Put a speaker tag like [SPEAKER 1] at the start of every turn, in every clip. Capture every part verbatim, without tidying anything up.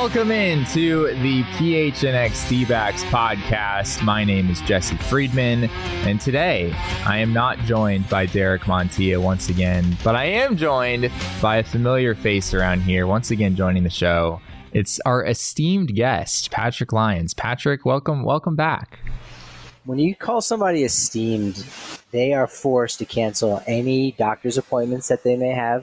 [SPEAKER 1] Welcome into the P H N X D-Backs podcast. My name is Jesse Friedman, and today I am not joined by Derek Montilla once again, but I am joined by a familiar face around here, once again joining the show. It's our esteemed guest, Patrick Lyons. Patrick, welcome, welcome back.
[SPEAKER 2] When you call somebody esteemed, they are forced to cancel any doctor's appointments that they may have,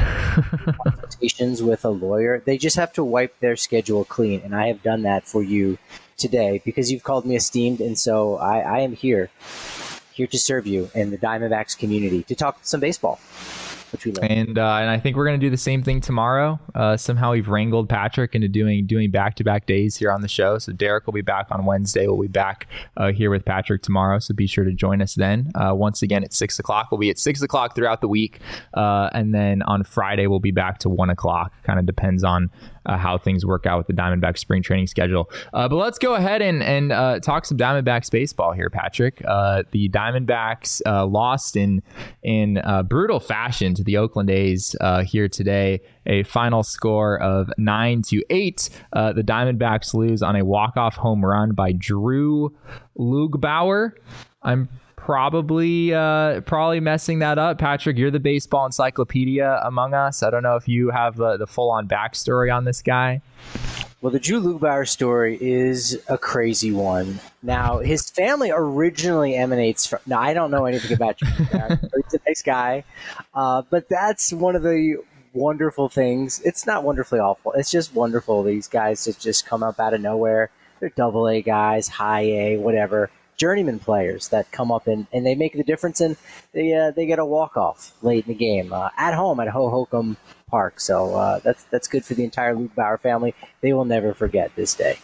[SPEAKER 2] consultations with a lawyer. They just have to wipe their schedule clean, and I have done that for you today because you've called me esteemed, and so I, I am here, here to serve you in the Diamondbacks community to talk some baseball. Which we love. And
[SPEAKER 1] uh, and I think we're going to do the same thing tomorrow. Uh, somehow we've wrangled Patrick into doing doing back-to-back days here on the show. So Derek will be back on Wednesday. We'll be back uh, here with Patrick tomorrow. So be sure to join us then. Uh, once again at six o'clock. We'll be at six o'clock throughout the week. Uh, and then on Friday, we'll be back to one o'clock. Kind of depends on Uh, how things work out with the Diamondbacks spring training schedule. Uh, but let's go ahead and, and uh, talk some Diamondbacks baseball here, Patrick. Uh, the Diamondbacks uh, lost in in uh, brutal fashion to the Oakland A's uh, here today. A final score of nine to eight. Uh, the Diamondbacks lose on a walk-off home run by Drew Lugbauer. I'm Probably, uh, probably messing that up. Patrick, you're the baseball encyclopedia among us. I don't know if you have the, the full-on backstory on this guy.
[SPEAKER 2] Well, the Drew Lugbauer story is a crazy one. Now, his family originally emanates from... Now, I don't know anything about Drew Lugbauer. He's a nice guy. Uh, but that's one of the wonderful things. It's not wonderfully awful. It's just wonderful. These guys that just come up out of nowhere. They're double A guys, high A, whatever. Journeyman players that come up and, and they make the difference, and they uh, they get a walk-off late in the game uh, at home at Hohokam Park. So uh, that's that's good for the entire Lugbauer family. They will never forget this day.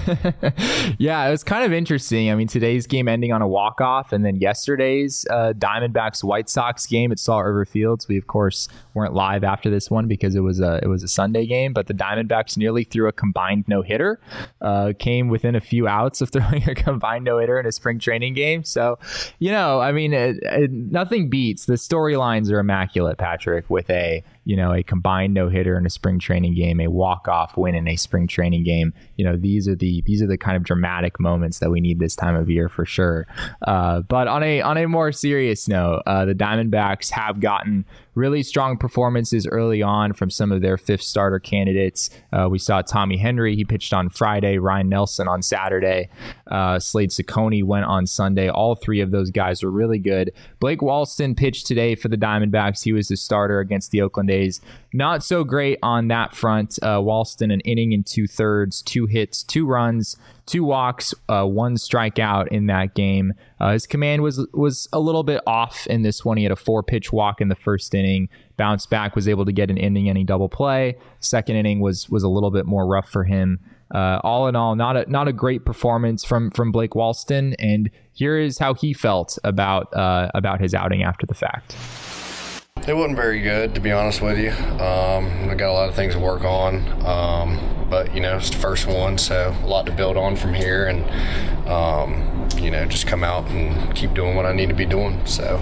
[SPEAKER 1] Yeah, it was kind of interesting. I mean, today's game ending on a walk-off, and then yesterday's uh, Diamondbacks White Sox game at Salt River Fields. We of course weren't live after this one because it was a it was a Sunday game, but the Diamondbacks nearly threw a combined no-hitter. Uh, came within a few outs of throwing a combined no-hitter in a spring training game. So, you know, I mean, it, it, nothing beats the storylines are immaculate, Patrick, with a you know a combined no-hitter in a spring training game, a walk-off win in a spring training game. You know, these are the these are the kind of dramatic moments that we need this time of year for sure. Uh, but on a on a more serious note, uh, the Diamondbacks have gotten really strong performances early on from some of their fifth starter candidates. Uh, we saw Tommy Henry. He pitched on Friday. Ryan Nelson on Saturday. Uh, Slade Ciccone went on Sunday. All three of those guys were really good. Blake Walston pitched today for the Diamondbacks. He was the starter against the Oakland A's. Not so great on that front. Uh, Walston, an inning and two thirds, two hits, two runs, two walks, uh, one strikeout in that game. Uh, his command was was a little bit off in this one. He had a four pitch walk in the first inning, bounced back, was able to get an inning inning double play. Second inning was was a little bit more rough for him. Uh, all in all, not a not a great performance from from Blake Walston. And here is how he felt about uh, about his outing after the fact.
[SPEAKER 3] It wasn't very good, to be honest with you. Um, I got a lot of things to work on, um, but, you know, it's the first one, so a lot to build on from here, and, um, you know, just come out and keep doing what I need to be doing, so.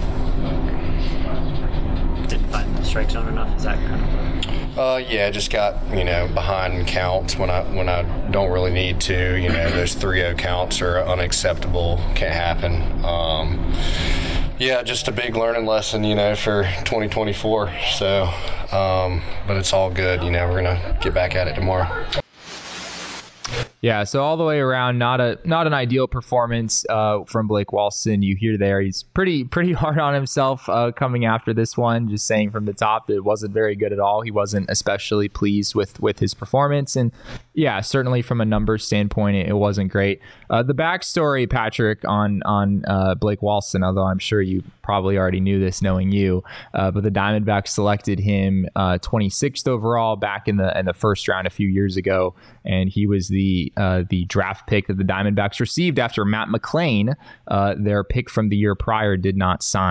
[SPEAKER 4] Didn't find the strike zone enough? Is that kind of
[SPEAKER 3] Uh, yeah, just got, you know, behind in counts when I when I don't really need to. You know, those three oh counts are unacceptable, can't happen. Um, Yeah, just a big learning lesson, you know, for twenty twenty-four. So, um, but it's all good. You know, we're going to get back at it tomorrow.
[SPEAKER 1] Yeah, so all the way around, not a not an ideal performance uh, from Blake Walston. You hear there, he's pretty pretty hard on himself uh, coming after this one, just saying from the top that it wasn't very good at all. He wasn't especially pleased with, with his performance. And yeah, certainly from a numbers standpoint, it, it wasn't great. Uh, the backstory, Patrick, on, on uh, Blake Walston, although I'm sure you probably already knew this knowing you, uh, but the Diamondbacks selected him uh, twenty-sixth overall back in the in the first round a few years ago, and he was the uh, the draft pick that the Diamondbacks received after Matt McLain, uh, their pick from the year prior, did not sign.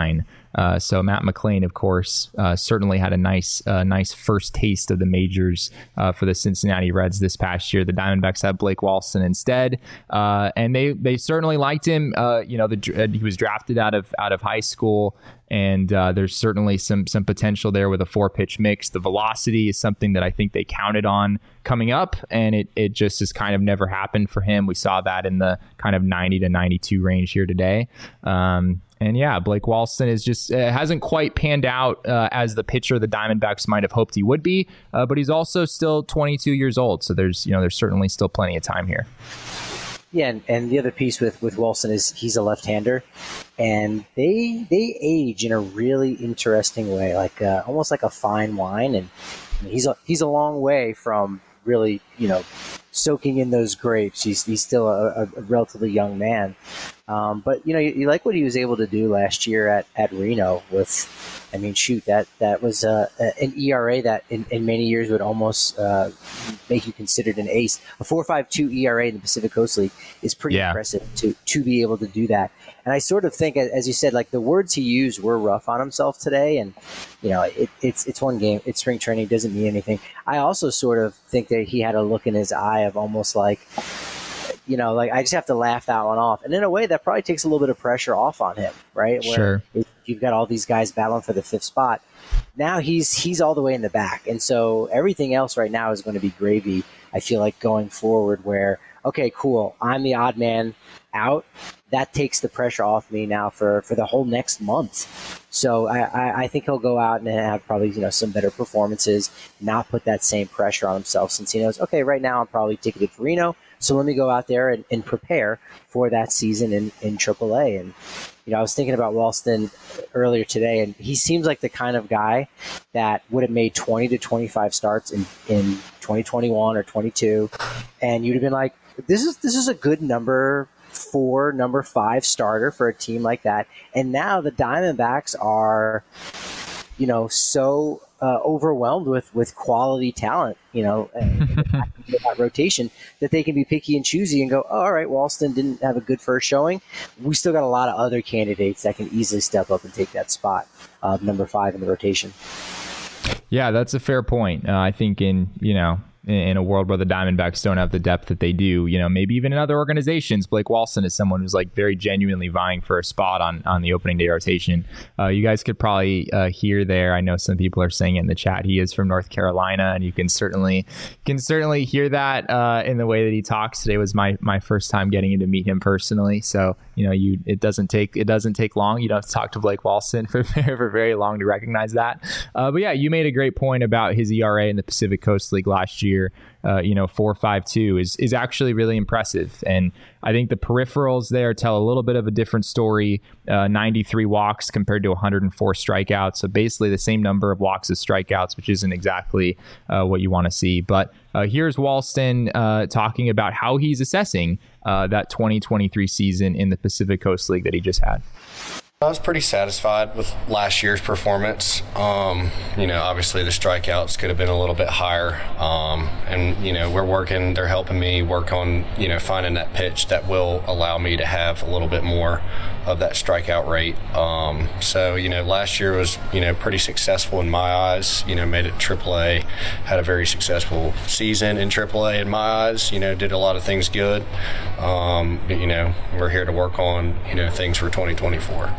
[SPEAKER 1] Uh, so Matt McLain, of course, uh, certainly had a nice, uh, nice first taste of the majors uh, for the Cincinnati Reds this past year. The Diamondbacks had Blake Walston instead, uh, and they they certainly liked him. Uh, you know, the, he was drafted out of out of high school. And uh, there's certainly some some potential there with a four pitch mix. The velocity is something that I think they counted on coming up, and it it just has kind of never happened for him. We saw that in the kind of ninety to ninety-two range here today. Um, and yeah, Blake Walston is just uh, hasn't quite panned out uh, as the pitcher the Diamondbacks might have hoped he would be, uh, but he's also still twenty-two years old. So there's you know there's certainly still plenty of time here.
[SPEAKER 2] Yeah, and, and the other piece with, with Walston is he's a left-hander, and they they age in a really interesting way, like uh, almost like a fine wine. And he's a, he's a long way from really, you know, soaking in those grapes. He's he's still a, a relatively young man, um, but you know, you, you like what he was able to do last year at, at Reno with. I mean, shoot, that that was uh, an E R A that in, in many years would almost uh, make you considered an ace. A four point five two E R A in the Pacific Coast League is pretty yeah. impressive to to be able to do that. And I sort of think, as you said, like the words he used were rough on himself today. And you know, it, it's it's one game. It's spring training. It doesn't mean anything. I also sort of think that he had a look in his eye of almost like, you know, like I just have to laugh that one off. And in a way, that probably takes a little bit of pressure off on him, right? Where
[SPEAKER 1] sure.
[SPEAKER 2] If you've got all these guys battling for the fifth spot. Now he's he's all the way in the back. And so everything else right now is going to be gravy, I feel like, going forward where, okay, cool, I'm the odd man out. That takes the pressure off me now for, for the whole next month. So I, I, I think he'll go out and have probably, you know, some better performances, not put that same pressure on himself since he knows, okay, right now I'm probably ticketed for Reno. So let me go out there and, and prepare for that season in, in triple A. And, you know, I was thinking about Walston earlier today, and he seems like the kind of guy that would have made twenty to twenty-five starts in, in twenty twenty-one or twenty-two. And you'd have been like, this is this is a good number four, number five starter for a team like that. And now the Diamondbacks are, you know, so uh, overwhelmed with, with quality talent, you know, that rotation that they can be picky and choosy and go, oh, all right, Walston didn't have a good first showing. We still got a lot of other candidates that can easily step up and take that spot of number five in the rotation.
[SPEAKER 1] Yeah, that's a fair point. Uh, I think in, you know, in a world where the Diamondbacks don't have the depth that they do, you know, maybe even in other organizations, Blake Walston is someone who's like very genuinely vying for a spot on, on the opening day rotation. Uh, you guys could probably uh, hear there. I know some people are saying it in the chat. He is from North Carolina, and you can certainly can certainly hear that uh, in the way that he talks. Today was my my first time getting to meet him personally, so you know, you it doesn't take it doesn't take long. You don't have to talk to Blake Walston for for very long to recognize that. Uh, but yeah, you made a great point about his E R A in the Pacific Coast League last year. Uh, you know, four point five two is is actually really impressive, and I think the peripherals there tell a little bit of a different story. Uh, ninety-three walks compared to one hundred four strikeouts, so basically the same number of walks as strikeouts, which isn't exactly uh, what you want to see. But uh, here's Walston uh, talking about how he's assessing uh, that twenty twenty-three season in the Pacific Coast League that he just had.
[SPEAKER 3] I was pretty satisfied with last year's performance. Um, you know, obviously the strikeouts could have been a little bit higher. Um, and, you know, we're working, they're helping me work on, you know, finding that pitch that will allow me to have a little bit more of that strikeout rate. Um, so, you know, last year was, you know, pretty successful in my eyes. You know, made it triple A, had a very successful season in triple A in my eyes. You know, did a lot of things good. Um, but, you know, we're here to work on, you know, things for twenty twenty-four.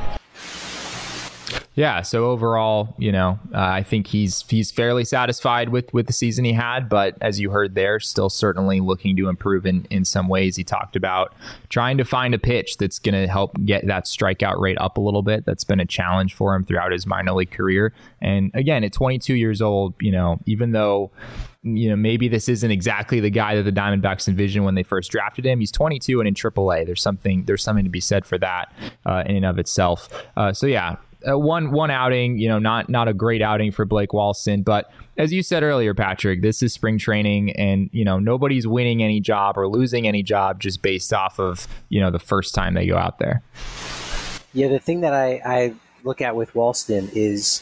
[SPEAKER 1] Yeah, so overall, you know, uh, I think he's he's fairly satisfied with, with the season he had, but as you heard there, still certainly looking to improve in, in some ways. He talked about trying to find a pitch that's going to help get that strikeout rate up a little bit. That's been a challenge for him throughout his minor league career. And again, at twenty-two years old, you know, even though, you know, maybe this isn't exactly the guy that the Diamondbacks envisioned when they first drafted him, he's twenty-two and in triple A. There's something there's something to be said for that uh, in and of itself. Uh, so yeah. Uh, one one outing, you know, not not a great outing for Blake Walston, but as you said earlier, Patrick, this is spring training, and you know nobody's winning any job or losing any job just based off of you know the first time they go out there.
[SPEAKER 2] Yeah, the thing that I, I look at with Walston is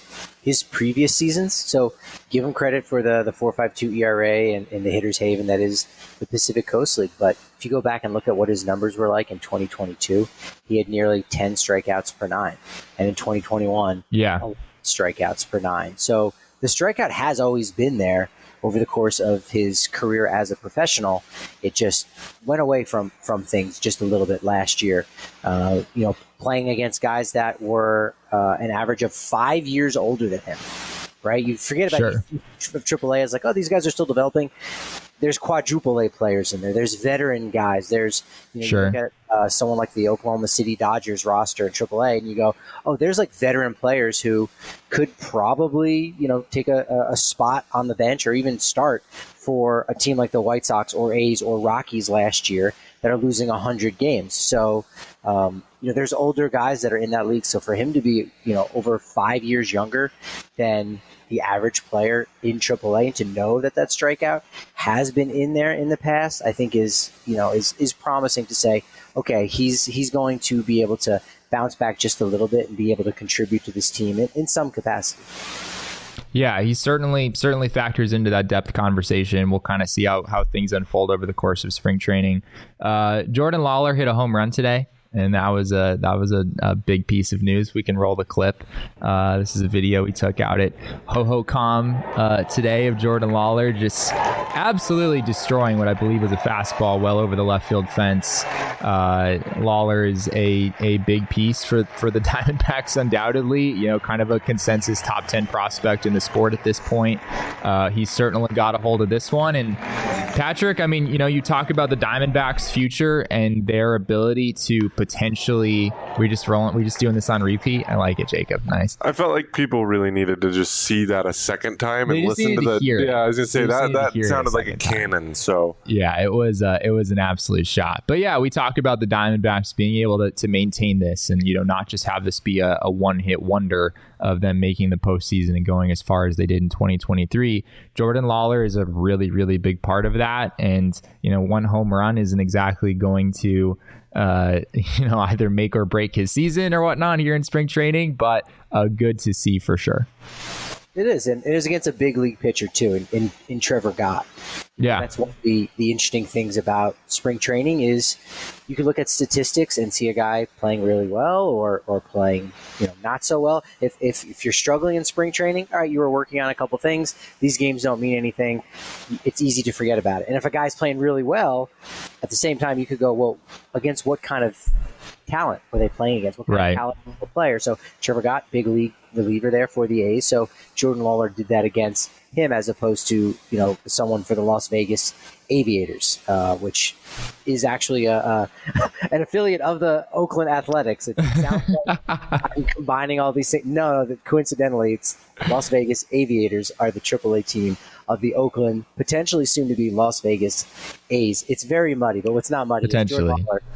[SPEAKER 2] his previous seasons. So give him credit for the the four point five two E R A and, and the hitter's haven that is the Pacific Coast League. But if you go back and look at what his numbers were like in twenty twenty-two, he had nearly ten strikeouts per nine. And in twenty twenty-one,
[SPEAKER 1] yeah,
[SPEAKER 2] strikeouts per nine. So the strikeout has always been there over the course of his career as a professional. It just went away from, from things just a little bit last year. Uh, you know, playing against guys that were uh, an average of five years older than him, right? You forget about sure. triple A as like, oh, these guys are still developing. There's quadruple A players in there. There's veteran guys. There's you know,
[SPEAKER 1] sure.
[SPEAKER 2] you look at uh, someone like the Oklahoma City Dodgers roster in triple A, and you go, oh, there's like veteran players who could probably you know take a, a spot on the bench or even start for a team like the White Sox or A's or Rockies last year that are losing one hundred games. So um, you know there's older guys that are in that league. So for him to be you know over five years younger than the average player in triple A, and to know that that strikeout has been in there in the past, I think is, you know, is, is promising to say, okay, he's, he's going to be able to bounce back just a little bit and be able to contribute to this team in, in some capacity.
[SPEAKER 1] Yeah, he certainly certainly factors into that depth conversation. We'll kind of see how, how things unfold over the course of spring training. Uh, Jordan Lawlar hit a home run today, and that was a that was a, a big piece of news. We can roll the clip. Uh, this is a video we took out at Ho-Ho-Com uh, today of Jordan Lawlar just absolutely destroying what I believe was a fastball well over the left field fence. Uh, Lawlar is a a big piece for for the Diamondbacks, undoubtedly. You know, kind of a consensus top ten prospect in the sport at this point. Uh, he's certainly got a hold of this one. And Patrick, I mean, you know, you talk about the Diamondbacks' future and their ability to potentially, we just rolling, we just doing this on repeat. I like it, Jacob. Nice.
[SPEAKER 5] I felt like people really needed to just see that a second time
[SPEAKER 1] they
[SPEAKER 5] and listen to,
[SPEAKER 1] to
[SPEAKER 5] the.
[SPEAKER 1] Yeah,
[SPEAKER 5] I was gonna say that that sounded
[SPEAKER 1] a
[SPEAKER 5] like a cannon. Time. So
[SPEAKER 1] yeah, it was uh, it was an absolute shot. But yeah, we talk about the Diamondbacks being able to, to maintain this and you know not just have this be a, a one hit wonder of them making the postseason and going as far as they did in twenty twenty-three. Jordan Lawlar is a really really big part of that, and you know one home run isn't exactly going to uh, you know, either make or break his season or whatnot here in spring training, but uh, good to see for sure.
[SPEAKER 2] It is, and it is against a big league pitcher too, in, in, in Trevor Gott.
[SPEAKER 1] Yeah,
[SPEAKER 2] that's one of the, the interesting things about spring training is you can look at statistics and see a guy playing really well or or playing you know not so well. If if if you're struggling in spring training, all right, you were working on a couple things. These games don't mean anything. It's easy to forget about it. And if a guy's playing really well, at the same time, you could go, well, against what kind of talent were they playing against? What kind
[SPEAKER 1] right.
[SPEAKER 2] of talent were they player? So Trevor Gott, big league reliever there for the A's. So Jordan Lawlar did that against him as opposed to, you know, someone for the Las Vegas Aviators, uh, which is actually a, a an affiliate of the Oakland Athletics. It sounds like I'm combining all these things. No, no, coincidentally, it's Las Vegas Aviators are the triple A team of the Oakland, potentially soon to be Las Vegas A's. It's very muddy, but what's not muddy
[SPEAKER 1] potentially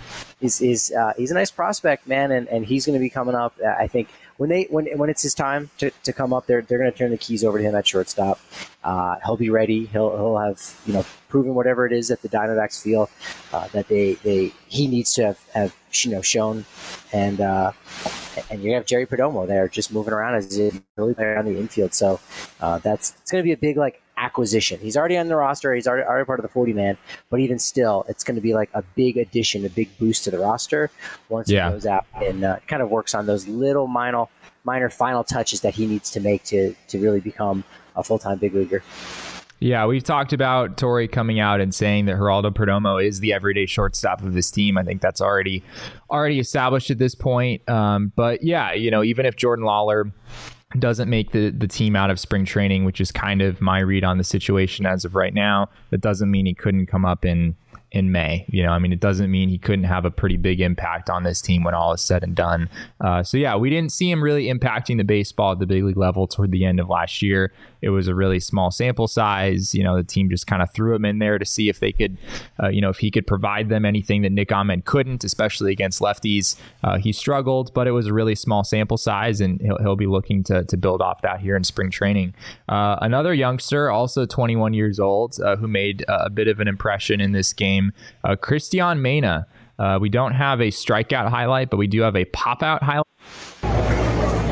[SPEAKER 2] is is uh, he's a nice prospect, man, and, and he's going to be coming up. Uh, I think when they when when it's his time to, to come up, they're they're going to turn the keys over to him at shortstop. Uh, he'll be ready. He'll he'll have you know proven whatever it is that the Diamondbacks feel uh, that they they he needs to have, have you know shown, and uh, and you have Jerry Perdomo there just moving around as a really player on the infield. So uh, that's it's going to be a big like acquisition. He's already on the roster. He's already, already part of the forty man, but even still, it's going to be like a big addition, a big boost to the roster once yeah. he goes out and uh, kind of works on those little minor, minor final touches that he needs to make to to really become a full-time big leaguer.
[SPEAKER 1] Yeah, we've talked about Torey coming out and saying that Geraldo Perdomo is the everyday shortstop of this team. I think that's already already established at this point. Um, but yeah, you know, even if Jordan Lawlar doesn't make the, the team out of spring training, which is kind of my read on the situation as of right now, that doesn't mean he couldn't come up in in May. You know, I mean, it doesn't mean he couldn't have a pretty big impact on this team when all is said and done. Uh, so yeah, we didn't see him really impacting the baseball at the big league level toward the end of last year. It was a really small sample size. You know, the team just kind of threw him in there to see if they could, uh, you know, if he could provide them anything that Nick Ahmed couldn't, especially against lefties. Uh, he struggled, but it was a really small sample size, and he'll, he'll be looking to, to build off that here in spring training. Uh, another youngster, also twenty-one years old, uh, who made a bit of an impression in this game, uh, Cristian Mena. Uh, we don't have a strikeout highlight, but we do have a pop-out highlight.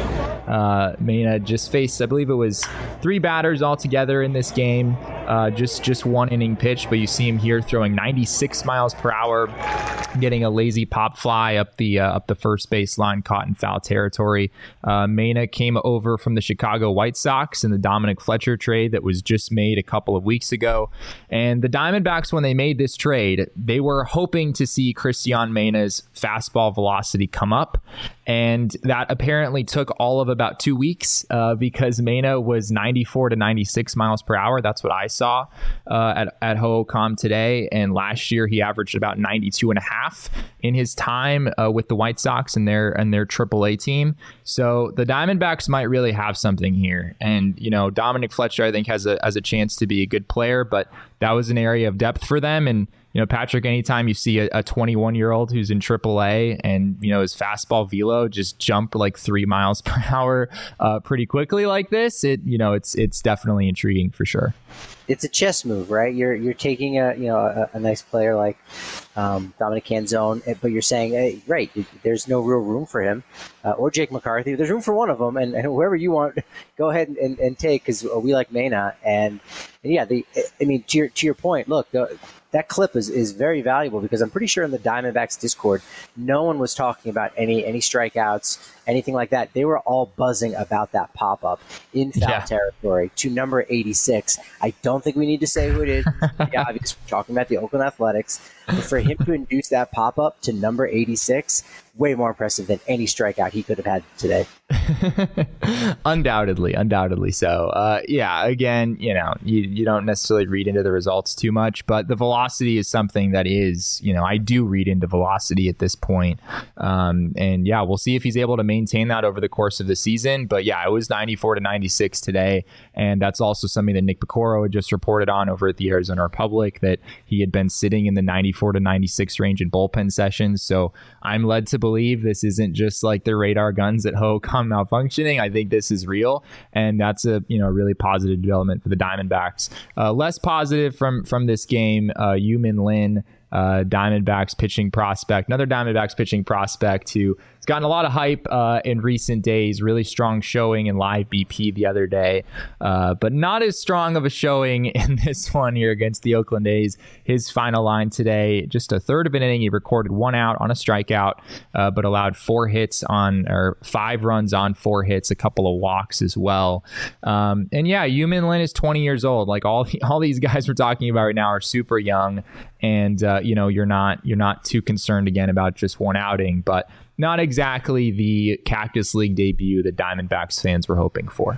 [SPEAKER 1] Uh, Mena just faced, I believe it was three batters altogether in this game. Uh, just just one inning pitch, but you see him here throwing ninety-six miles per hour, getting a lazy pop fly up the uh, up the first baseline, caught in foul territory. Uh, Mena came over from the Chicago White Sox in the Dominic Fletcher trade that was just made a couple of weeks ago. And the Diamondbacks, when they made this trade, they were hoping to see Cristian Mena's fastball velocity come up. And that apparently took all of about two weeks uh, because Mena was ninety-four to ninety-six miles per hour. That's what I saw uh, at, at Ho'ohkam today. And last year he averaged about ninety-two and a half in his time uh, with the White Sox and their and their triple A team. So the Diamondbacks might really have something here. And, you know, Dominic Fletcher, I think, has a, has a chance to be a good player, but that was an area of depth for them. And, you know, Patrick, anytime you see a twenty-one-year-old who's in triple A and, you know, his fastball velo just jump like three miles per hour uh, pretty quickly like this, it, you know, it's it's definitely intriguing for sure.
[SPEAKER 2] It's a chess move, right? You're you're taking a you know a, a nice player like um, Dominic Canzone, but you're saying, hey, right, there's no real room for him, uh, or Jake McCarthy. There's room for one of them, and, and whoever you want, go ahead and, and, and take, because we like Mena. And, and yeah, the I mean, to your to your point, look. The, That clip is, is very valuable because I'm pretty sure in the Diamondbacks Discord, no one was talking about any any strikeouts, anything like that. They were all buzzing about that pop-up in foul
[SPEAKER 1] yeah.
[SPEAKER 2] territory to number eighty-six. I don't think we need to say who it is. Yeah, obviously, we're talking about the Oakland Athletics. But for him to induce that pop-up to number eighty-six, way more impressive than any strikeout he could have had today.
[SPEAKER 1] undoubtedly, undoubtedly so. Uh, yeah, again, you know, you, you don't necessarily read into the results too much, but the velocity is something that is, you know, I do read into velocity at this point. Um, and yeah, we'll see if he's able to maintain that over the course of the season. But yeah, it was ninety-four to ninety-six today. And that's also something that Nick Piccoro had just reported on over at the Arizona Republic, that he had been sitting in the ninety-four to ninety-six range in bullpen sessions. So I'm led to believe this isn't just like the radar guns at Ho'ohkam malfunctioning. I think this is real, and that's a you know really positive development for the Diamondbacks. Uh, less positive from from this game, uh, Yu-Min Lin, uh, Diamondbacks pitching prospect, another Diamondbacks pitching prospect who has gotten a lot of hype uh, in recent days. Really strong showing in live B P the other day, uh, but not as strong of a showing in this one here against the Oakland A's. His final line today, just a third of an inning. He recorded one out on a strikeout, uh, but allowed four hits on, or five runs on four hits, a couple of walks as well. Um, and yeah, Yu-Min Lin is twenty years old. Like all all these guys we're talking about right now are super young, and uh, you know you're not you're not too concerned again about just one outing, but not exactly the Cactus League debut that Diamondbacks fans were hoping for.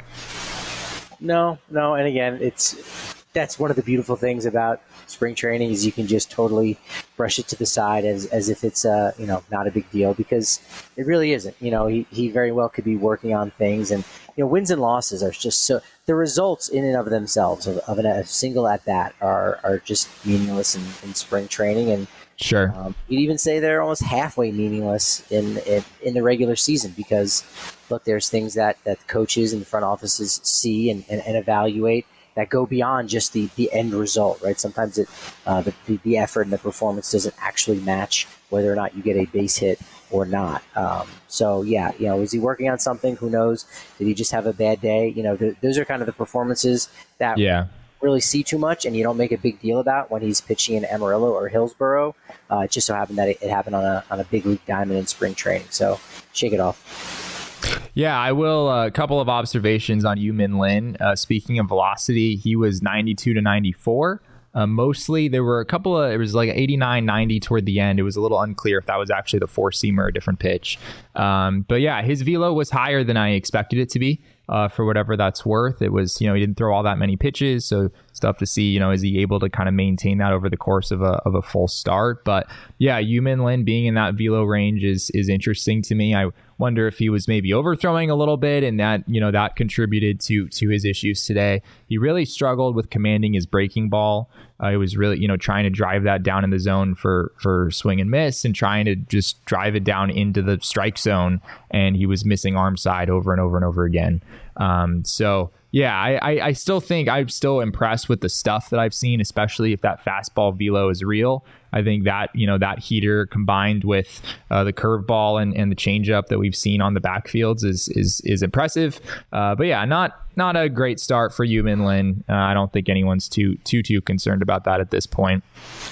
[SPEAKER 2] No, no, and again, it's that's one of the beautiful things about spring training is you can just totally brush it to the side as as if it's uh you know not a big deal, because it really isn't. You know, he, he very well could be working on things, and you know wins and losses are just so the results in and of themselves of, of an, a single at bat are are just meaningless in, in spring training. And
[SPEAKER 1] Sure.
[SPEAKER 2] Um, you'd even say they're almost halfway meaningless in, in in the regular season, because, look, there's things that, that the coaches and the front offices see and, and, and evaluate that go beyond just the, the end result, right? Sometimes it uh, the, the effort and the performance doesn't actually match whether or not you get a base hit or not. Um, so, yeah, you know, is he working on something? Who knows? Did he just have a bad day? You know, th- those are kind of the performances that yeah. really see too much and you don't make a big deal about when he's pitching in Amarillo or Hillsboro. Uh, it just so happened that it, it happened on a on a big league diamond in spring training. So shake it off.
[SPEAKER 1] Yeah, I will. A uh, couple of observations on Yu-Min Lin. Uh, speaking of velocity, he was ninety-two to ninety-four. Uh, mostly, there were a couple of, it was like eighty-nine, ninety toward the end. It was a little unclear if that was actually the four-seamer or a different pitch. Um, but yeah, his velo was higher than I expected it to be. Uh, for whatever that's worth. It was, you know, he didn't throw all that many pitches, so stuff to see, you know, is he able to kind of maintain that over the course of a of a full start? But yeah, Yu-Min Lin being in that velo range is is interesting to me. I wonder if he was maybe overthrowing a little bit, and that, you know, that contributed to to his issues today. He really struggled with commanding his breaking ball. Uh, he was really, you know, trying to drive that down in the zone for for swing and miss, and trying to just drive it down into the strike zone, and he was missing arm side over and over and over again. Um, so yeah, I, I, I still think I'm still impressed with the stuff that I've seen, especially if that fastball velo is real. I think that, you know, that heater combined with uh, the curveball and, and the changeup that we've seen on the backfields is is is impressive. Uh, but yeah, not not a great start for Yu-Min Lin. Uh, I don't think anyone's too too too concerned about that at this point.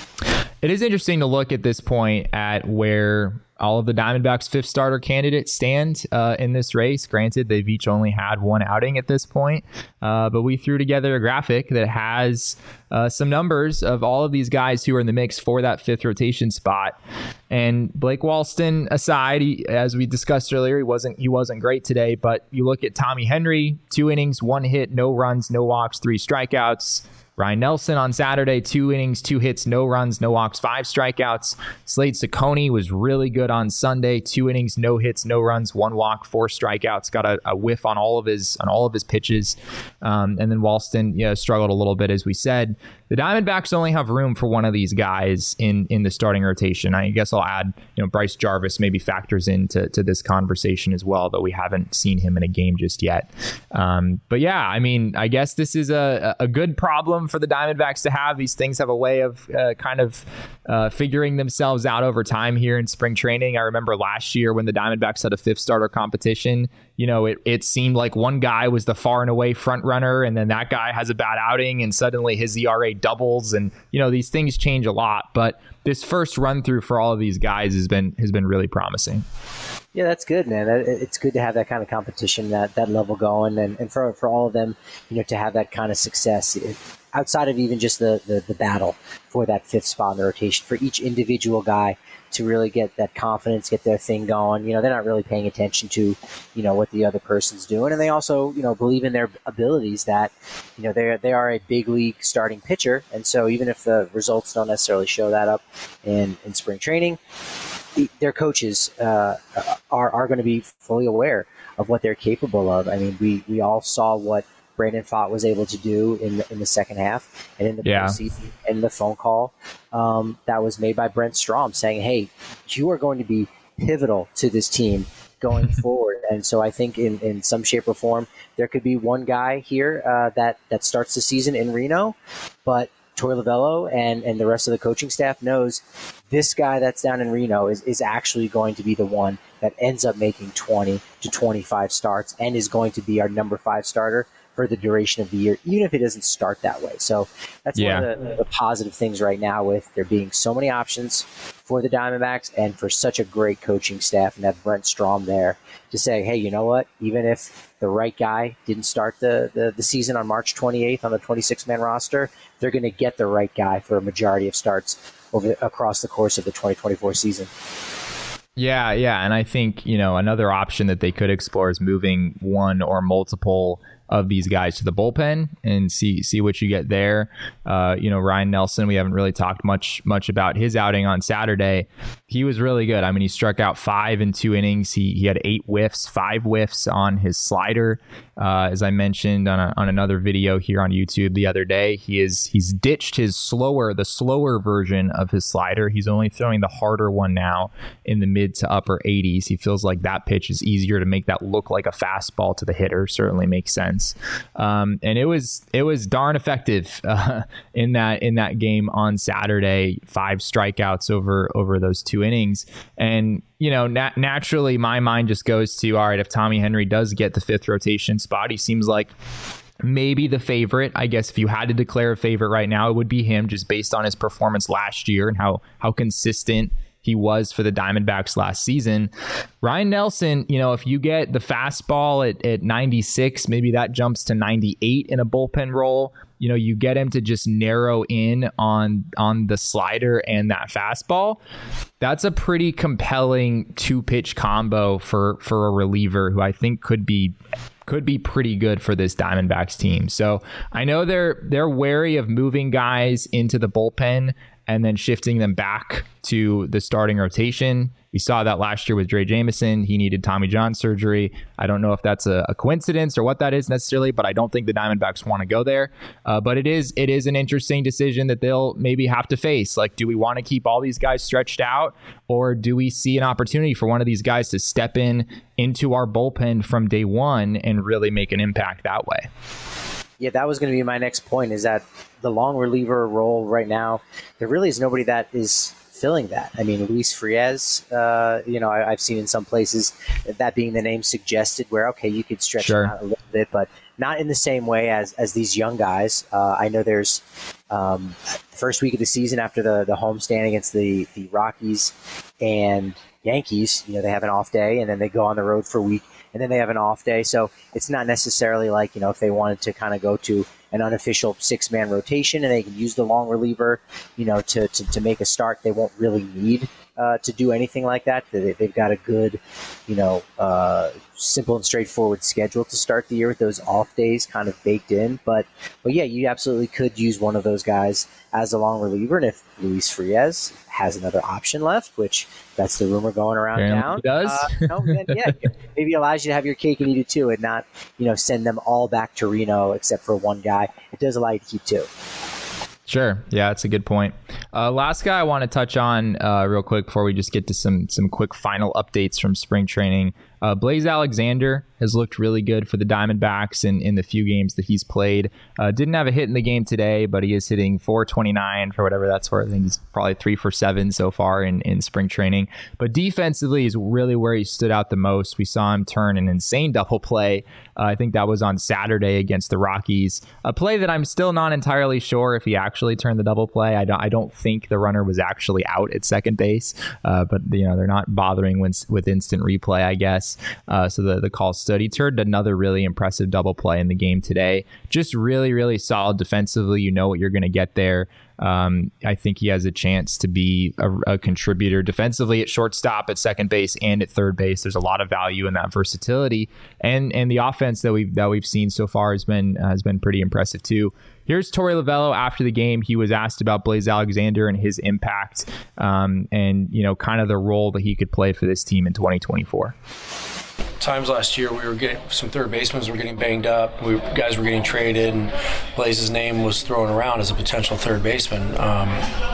[SPEAKER 1] It is interesting to look at this point at where all of the Diamondbacks' fifth starter candidates stand uh, in this race. Granted, they've each only had one outing at this point, uh, but we threw together a graphic that has uh, some numbers of all of these guys who are in the mix for that fifth rotation spot. And Blake Walston aside, he, as we discussed earlier, he wasn't he wasn't great today. But you look at Tommy Henry, two innings, one hit, no runs, no walks, three strikeouts. Ryan Nelson on Saturday, two innings, two hits, no runs, no walks, five strikeouts. Slade Cecconi was really good on Sunday, two innings, no hits, no runs, one walk, four strikeouts. Got a, a whiff on all of his on all of his pitches, um, and then Walston, you know, struggled a little bit, as we said. The Diamondbacks only have room for one of these guys in in the starting rotation. I guess I'll add, you know, Bryce Jarvis maybe factors into to this conversation as well, though we haven't seen him in a game just yet. Um, but yeah, I mean, I guess this is a a good problem for the Diamondbacks to have. These things have a way of uh, kind of uh, figuring themselves out over time here in spring training. I remember last year when the Diamondbacks had a fifth starter competition, you know, it, it seemed like one guy was the far and away front runner, and then that guy has a bad outing and suddenly his E R A doubles, and you know, these things change a lot. But this first run through for all of these guys has been has been really promising.
[SPEAKER 2] Yeah, that's good, man. It's good to have that kind of competition, that that level going, and, and for for all of them, you know, to have that kind of success. It, outside of even just the, the, the battle for that fifth spot in the rotation, for each individual guy to really get that confidence, get their thing going. You know, they're not really paying attention to, you know, what the other person's doing. And they also, you know, believe in their abilities that, you know, they're, they are a big league starting pitcher. And so even if the results don't necessarily show that up in, in spring training, their coaches uh, are, are going to be fully aware of what they're capable of. I mean, we, we all saw what Brandon Pfaadt was able to do in the, in the second half and in the
[SPEAKER 1] yeah.
[SPEAKER 2] postseason, and the phone call um, that was made by Brent Strom saying, hey, you are going to be pivotal to this team going forward. And so I think in, in some shape or form, there could be one guy here uh, that, that starts the season in Reno, but Torey Lovullo and, and the rest of the coaching staff knows this guy that's down in Reno is, is actually going to be the one that ends up making twenty to twenty-five starts and is going to be our number five starter for the duration of the year, even if it doesn't start that way. So that's
[SPEAKER 1] yeah.
[SPEAKER 2] one of the, the positive things right now, with there being so many options for the Diamondbacks and for such a great coaching staff and have Brent Strom there to say, hey, you know what, even if the right guy didn't start the, the, the season on March twenty-eighth on the twenty-six man roster, they're going to get the right guy for a majority of starts over across the course of the twenty twenty-four season.
[SPEAKER 1] Yeah, yeah. And I think, you know, another option that they could explore is moving one or multiple of these guys to the bullpen and see see what you get there. Uh, you know, Ryan Nelson, we haven't really talked much much about his outing on Saturday. He was really good. I mean, he struck out five in two innings. He he had eight whiffs, five whiffs on his slider. Uh, as I mentioned on a, on another video here on YouTube the other day, he is he's ditched his slower the slower version of his slider. He's only throwing the harder one now in the mid to upper eighties. He feels like that pitch is easier to make that look like a fastball to the hitter. Certainly makes sense. Um, and it was it was darn effective uh, in that in that game on Saturday. Five strikeouts over over those two innings, and you know nat- naturally my mind just goes to, all right, if Tommy Henry does get the fifth rotation spot, he seems like maybe the favorite. I guess if you had to declare a favorite right now, it would be him, just based on his performance last year and how how consistent he was for the Diamondbacks last season. Ryan Nelson, you know, if you get the fastball at, at ninety-six, maybe that jumps to ninety-eight in a bullpen role. You know, you get him to just narrow in on on the slider and that fastball. That's a pretty compelling two-pitch combo for for a reliever who I think could be could be pretty good for this Diamondbacks team. So I know they're they're wary of moving guys into the bullpen and then shifting them back to the starting rotation. We saw that last year with Dre Jameson. He needed Tommy John surgery. I don't know if that's a, a coincidence or what that is necessarily, but I don't think the Diamondbacks want to go there. Uh, but it is it is an interesting decision that they'll maybe have to face. Like, do we want to keep all these guys stretched out, or do we see an opportunity for one of these guys to step in into our bullpen from day one and really make an impact that way?
[SPEAKER 2] Yeah, that was going to be my next point, is that the long reliever role right now, there really is nobody that is filling that. I mean, Luis Frias, uh, you know, I, I've seen in some places that being the name suggested where, okay, you could stretch
[SPEAKER 1] sure.
[SPEAKER 2] him out a little bit, but not in the same way as, as these young guys. Uh, I know there's um, the first week of the season after the, the homestand against the, the Rockies and Yankees, you know, they have an off day and then they go on the road for a week and then they have an off day. So it's not necessarily like, you know, if they wanted to kind of go to an unofficial six-man rotation and they can use the long reliever, you know, to, to, to make a start, they won't really need uh, to do anything like that. They, they've got a good, you know, uh, simple and straightforward schedule to start the year with those off days kind of baked in. But, but yeah, you absolutely could use one of those guys as a long reliever. And if Luis Frias has another option left, which that's the rumor going around
[SPEAKER 1] Apparently
[SPEAKER 2] town,
[SPEAKER 1] he does.
[SPEAKER 2] uh, you know, then, yeah, maybe allows you to have your cake and eat it too, and not, you know, send them all back to Reno except for one guy. It does allow you to keep two.
[SPEAKER 1] Sure. Yeah, that's a good point. Uh, last guy I want to touch on uh, real quick before we just get to some some quick final updates from spring training. Uh, Blaze Alexander has looked really good for the Diamondbacks in, in the few games that he's played. Uh, didn't have a hit in the game today, but he is hitting four twenty-nine for whatever that's worth. I think he's probably three for seven so far in, in spring training. But defensively is really where he stood out the most. We saw him turn an insane double play. Uh, I think that was on Saturday against the Rockies. A play that I'm still not entirely sure if he actually turned the double play. I don't, I don't think the runner was actually out at second base, uh, but you know they're not bothering with, with instant replay, I guess. Uh, so the, the call stood. He turned another really impressive double play in the game today. Just really, really solid defensively. You know what you're going to get there. Um, I think he has a chance to be a, a contributor defensively at shortstop, at second base, and at third base. There's a lot of value in that versatility, and and the offense that we've that we've seen so far has been uh, has been pretty impressive too. Here's Torey Lovullo after the game. He was asked about Blaze Alexander and his impact, um, and you know, kind of the role that he could play for this team in twenty twenty-four.
[SPEAKER 6] Times last year we were getting some third basemen were getting banged up, we guys were getting traded, and Blaze's name was thrown around as a potential third baseman. Um,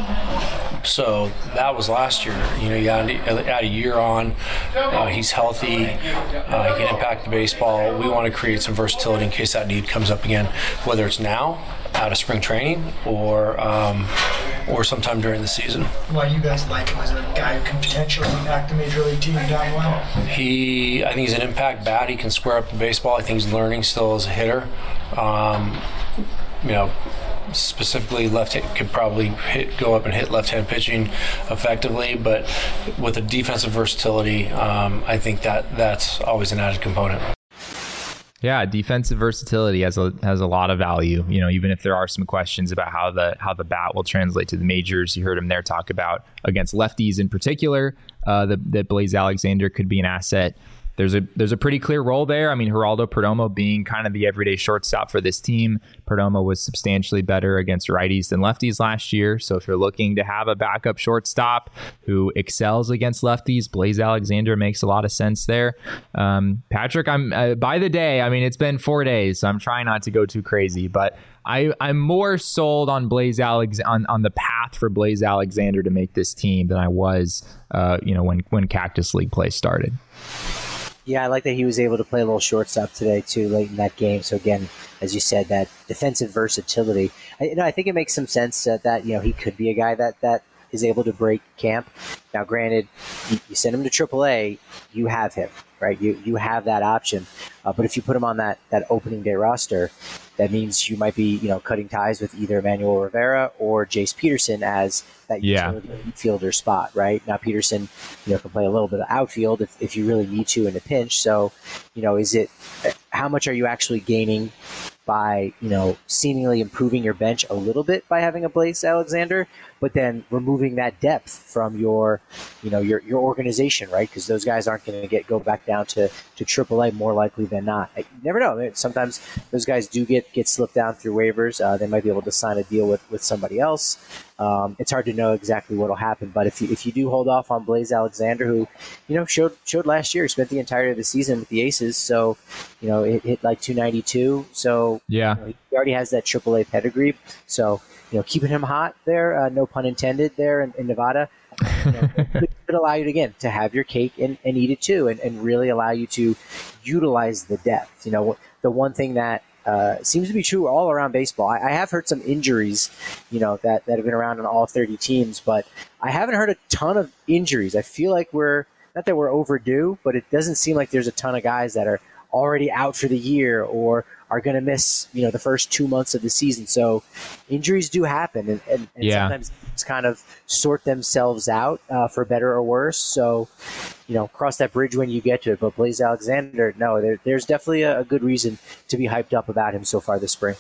[SPEAKER 6] so that was last year. You know, you add, add a year on. Uh, he's healthy. Uh, he can impact the baseball. We want to create some versatility in case that need comes up again, whether it's now out of spring training or um, or sometime during the season.
[SPEAKER 7] Why do you guys like him as a guy who can potentially impact the major league team down the line?
[SPEAKER 6] He, I think he's an impact bat. He can square up the baseball. I think he's learning still as a hitter. Um, you know, specifically left hit could probably hit, go up and hit left-hand pitching effectively, but with the defensive versatility, um, I think that that's always an added component.
[SPEAKER 1] Yeah, defensive versatility has a has a lot of value. You know, even if there are some questions about how the how the bat will translate to the majors, you heard him there talk about against lefties in particular, uh, that that Blaze Alexander could be an asset. There's a there's a pretty clear role there. I mean, Geraldo Perdomo being kind of the everyday shortstop for this team. Perdomo was substantially better against righties than lefties last year. So if you're looking to have a backup shortstop who excels against lefties, Blaze Alexander makes a lot of sense there. Um, Patrick, I'm uh, by the day. I mean, it's been four days, so I'm trying not to go too crazy, but I, I'm more sold on Blaze Alex on, on the path for Blaze Alexander to make this team than I was, uh, you know, when when Cactus League play started.
[SPEAKER 2] Yeah, I like that he was able to play a little shortstop today, too, late in that game. So, again, as you said, that defensive versatility. I, you know, I think it makes some sense that, that, you know, he could be a guy that, that is able to break camp. Now, granted, you, you send him to triple A, you have him, right? You you have that option. Uh, but if you put him on that, that opening day roster, that means you might be, you know, cutting ties with either Emmanuel Rivera or Jace Peterson as that
[SPEAKER 1] yeah.
[SPEAKER 2] utility fielder spot, right? Now, Peterson, you know, can play a little bit of outfield if, if you really need to in a pinch. So, you know, is it, how much are you actually gaining by, you know, seemingly improving your bench a little bit by having a Blaze Alexander? but then removing that depth from your, you know, your your organization, right? Because those guys aren't going to get go back down to to triple A more likely than not. You never know. Sometimes those guys do get get slipped down through waivers. Uh, they might be able to sign a deal with with somebody else. Um, it's hard to know exactly what will happen, but if you if you do hold off on Blaze Alexander, who, you know, showed showed last year, spent the entirety of the season with the Aces, so, you know, it hit like two ninety-two. So
[SPEAKER 1] yeah,
[SPEAKER 2] you know, he already has that triple A pedigree. So, you know, keeping him hot there, uh, no pun intended, there in, in Nevada, you know, could, could allow you to, again, to have your cake and, and eat it too, and, and really allow you to utilize the depth. You know, the one thing that Uh, seems to be true all around baseball. I, I have heard some injuries, you know, that, that have been around on all thirty teams, but I haven't heard a ton of injuries. I feel like we're, not that we're overdue, but it doesn't seem like there's a ton of guys that are already out for the year or are going to miss, you know, the first two months of the season. So injuries do happen, and, and, and
[SPEAKER 1] yeah.
[SPEAKER 2] sometimes it's kind of sort themselves out uh, for better or worse. So, you know, cross that bridge when you get to it. But Blaze Alexander, no, there, there's definitely a, a good reason to be hyped up about him so far this spring.